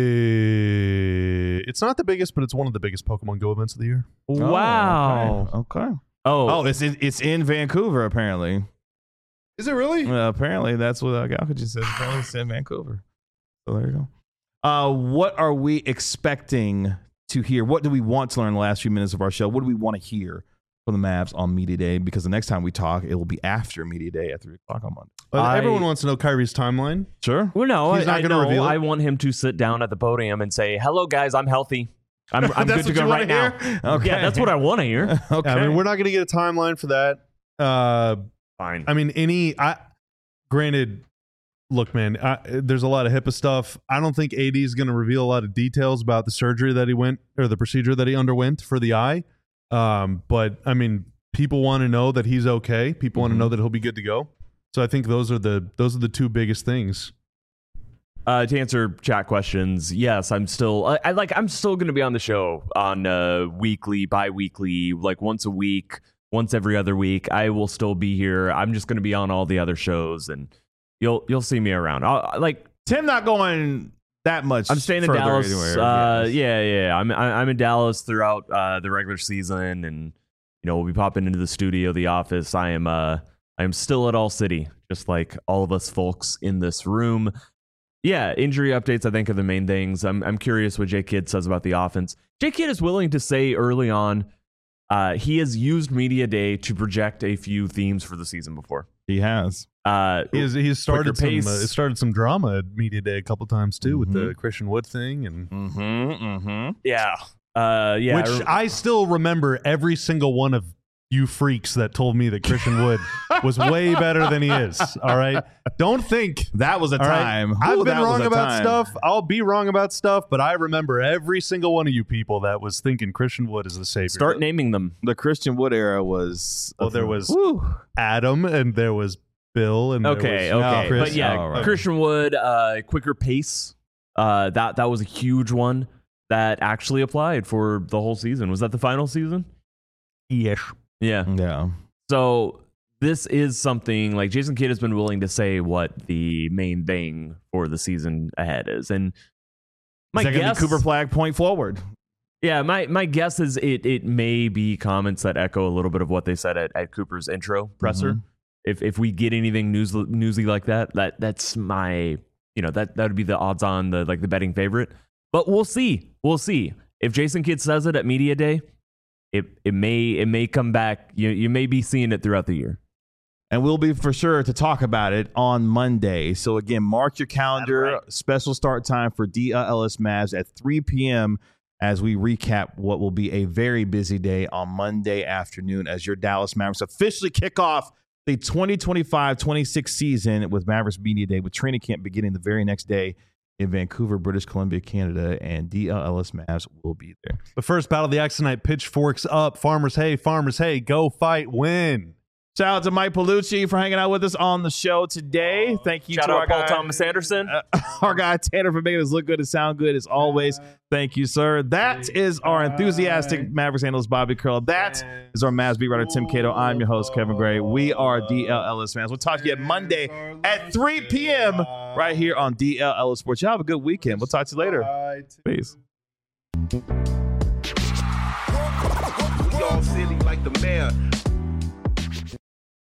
big. It's not the biggest, but it's one of the biggest Pokemon Go events of the year. Wow. Oh, okay. okay. Oh, Oh, it's in, it's in Vancouver apparently. Is it really? Uh, apparently, that's what uh, Galkajan says. Apparently, it's in Vancouver. So there you go. Uh, what are we expecting to hear? What do we want to learn in the last few minutes of our show? What do we want to hear from the Mavs on Media Day? Because the next time we talk, it will be after Media Day at three o'clock on Monday. Uh, I- everyone wants to know Kyrie's timeline. Sure. well, no, He's I, not I gonna know. reveal it? I want him to sit down at the podium and say, "Hello, guys, I'm healthy. I'm, I'm That's good to what go you right wanna now." hear? Okay. Yeah, that's what I want to hear. Okay. I mean, we're not going to get a timeline for that. Uh, Fine. I mean, any. I granted, look, man. I, there's a lot of HIPAA stuff. I don't think A D is going to reveal a lot of details about the surgery that he went or the procedure that he underwent for the eye. Um, but I mean, people want to know that he's okay. People want to Mhm. know that he'll be good to go. So I think those are the those are the two biggest things. Uh, to answer chat questions, yes, I'm still. I, I like. I'm still going to be on the show on uh, weekly, bi-weekly, like once a week, once every other week. I will still be here. I'm just going to be on all the other shows, and you'll you'll see me around. I'll, like Tim not going that much. I'm staying in further Dallas. anywhere, Uh, yes. yeah, yeah. I'm I- I'm in Dallas throughout uh, the regular season, and you know we'll be popping into the studio, the office. I am uh I am still at All City, just like all of us folks in this room. Yeah, injury updates I think are the main things. I'm I'm curious what Jay Kidd says about the offense. Jay Kidd is willing to say early on, uh, he has used Media Day to project a few themes for the season before. He has. Uh, He has, he's started some. Uh, pace. it started some drama at Media Day a couple times too with the Mhm. Christian Wood thing, and Mm-hmm. Mm-hmm. yeah, uh, yeah. which I rem- I still remember every single one of you freaks that told me that Christian Wood was way better than he is. All right, don't think. That was a All right? time. I've Ooh, been that was wrong a about time. stuff. I'll be wrong about stuff, but I remember every single one of you people that was thinking Christian Wood is the savior. start naming them. The Christian Wood era was. Well, there was Woo. Adam, and there was Bill, and Okay, there was okay, Chris. but yeah, Oh, right. Christian Wood, uh, quicker pace. Uh, that that was a huge one that actually applied for the whole season. Was that the final season? Yes. Yeah. Yeah. So this is something like Jason Kidd has been willing to say what the main thing for the season ahead is, and my Is that gonna guess, be Cooper Flag point forward? yeah, my my guess is it it may be comments that echo a little bit of what they said at, at Cooper's intro presser. Mhm. If if we get anything news newsy like that, that that's my you know that that would be the odds on the like the betting favorite. But we'll see, we'll see if Jason Kidd says it at Media Day. It it may it may come back. You you may be seeing it throughout the year. And we'll be for sure to talk about it on Monday. So again, mark your calendar. That's Special start time for D L S Mavs at three p.m. as we recap what will be a very busy day on Monday afternoon as your Dallas Mavericks officially kick off the twenty twenty-five twenty-six season with Mavericks Media Day, with training camp beginning the very next day in Vancouver, British Columbia, Canada, and D L Ellis Mavs will be there. The first battle of the Axe tonight, pitchforks up. Farmers, hey, farmers, hey, go fight, win. Shout out to Mike Palucci for hanging out with us on the show today. Thank you Shout to out our Paul guy, Thomas Anderson. uh, our guy Tanner for making us look good and sound good as always. Thank you, sir. That is our enthusiastic Mavericks analyst Bobby Curl. That is our Mavs beat writer Tim Cato. I'm your host Kevin Gray. We are D L Ellis fans. We'll talk to you at Monday at three p.m. right here on D L Ellis Sports. Y'all have a good weekend. We'll talk to you later. Peace. We all silly like the mayor.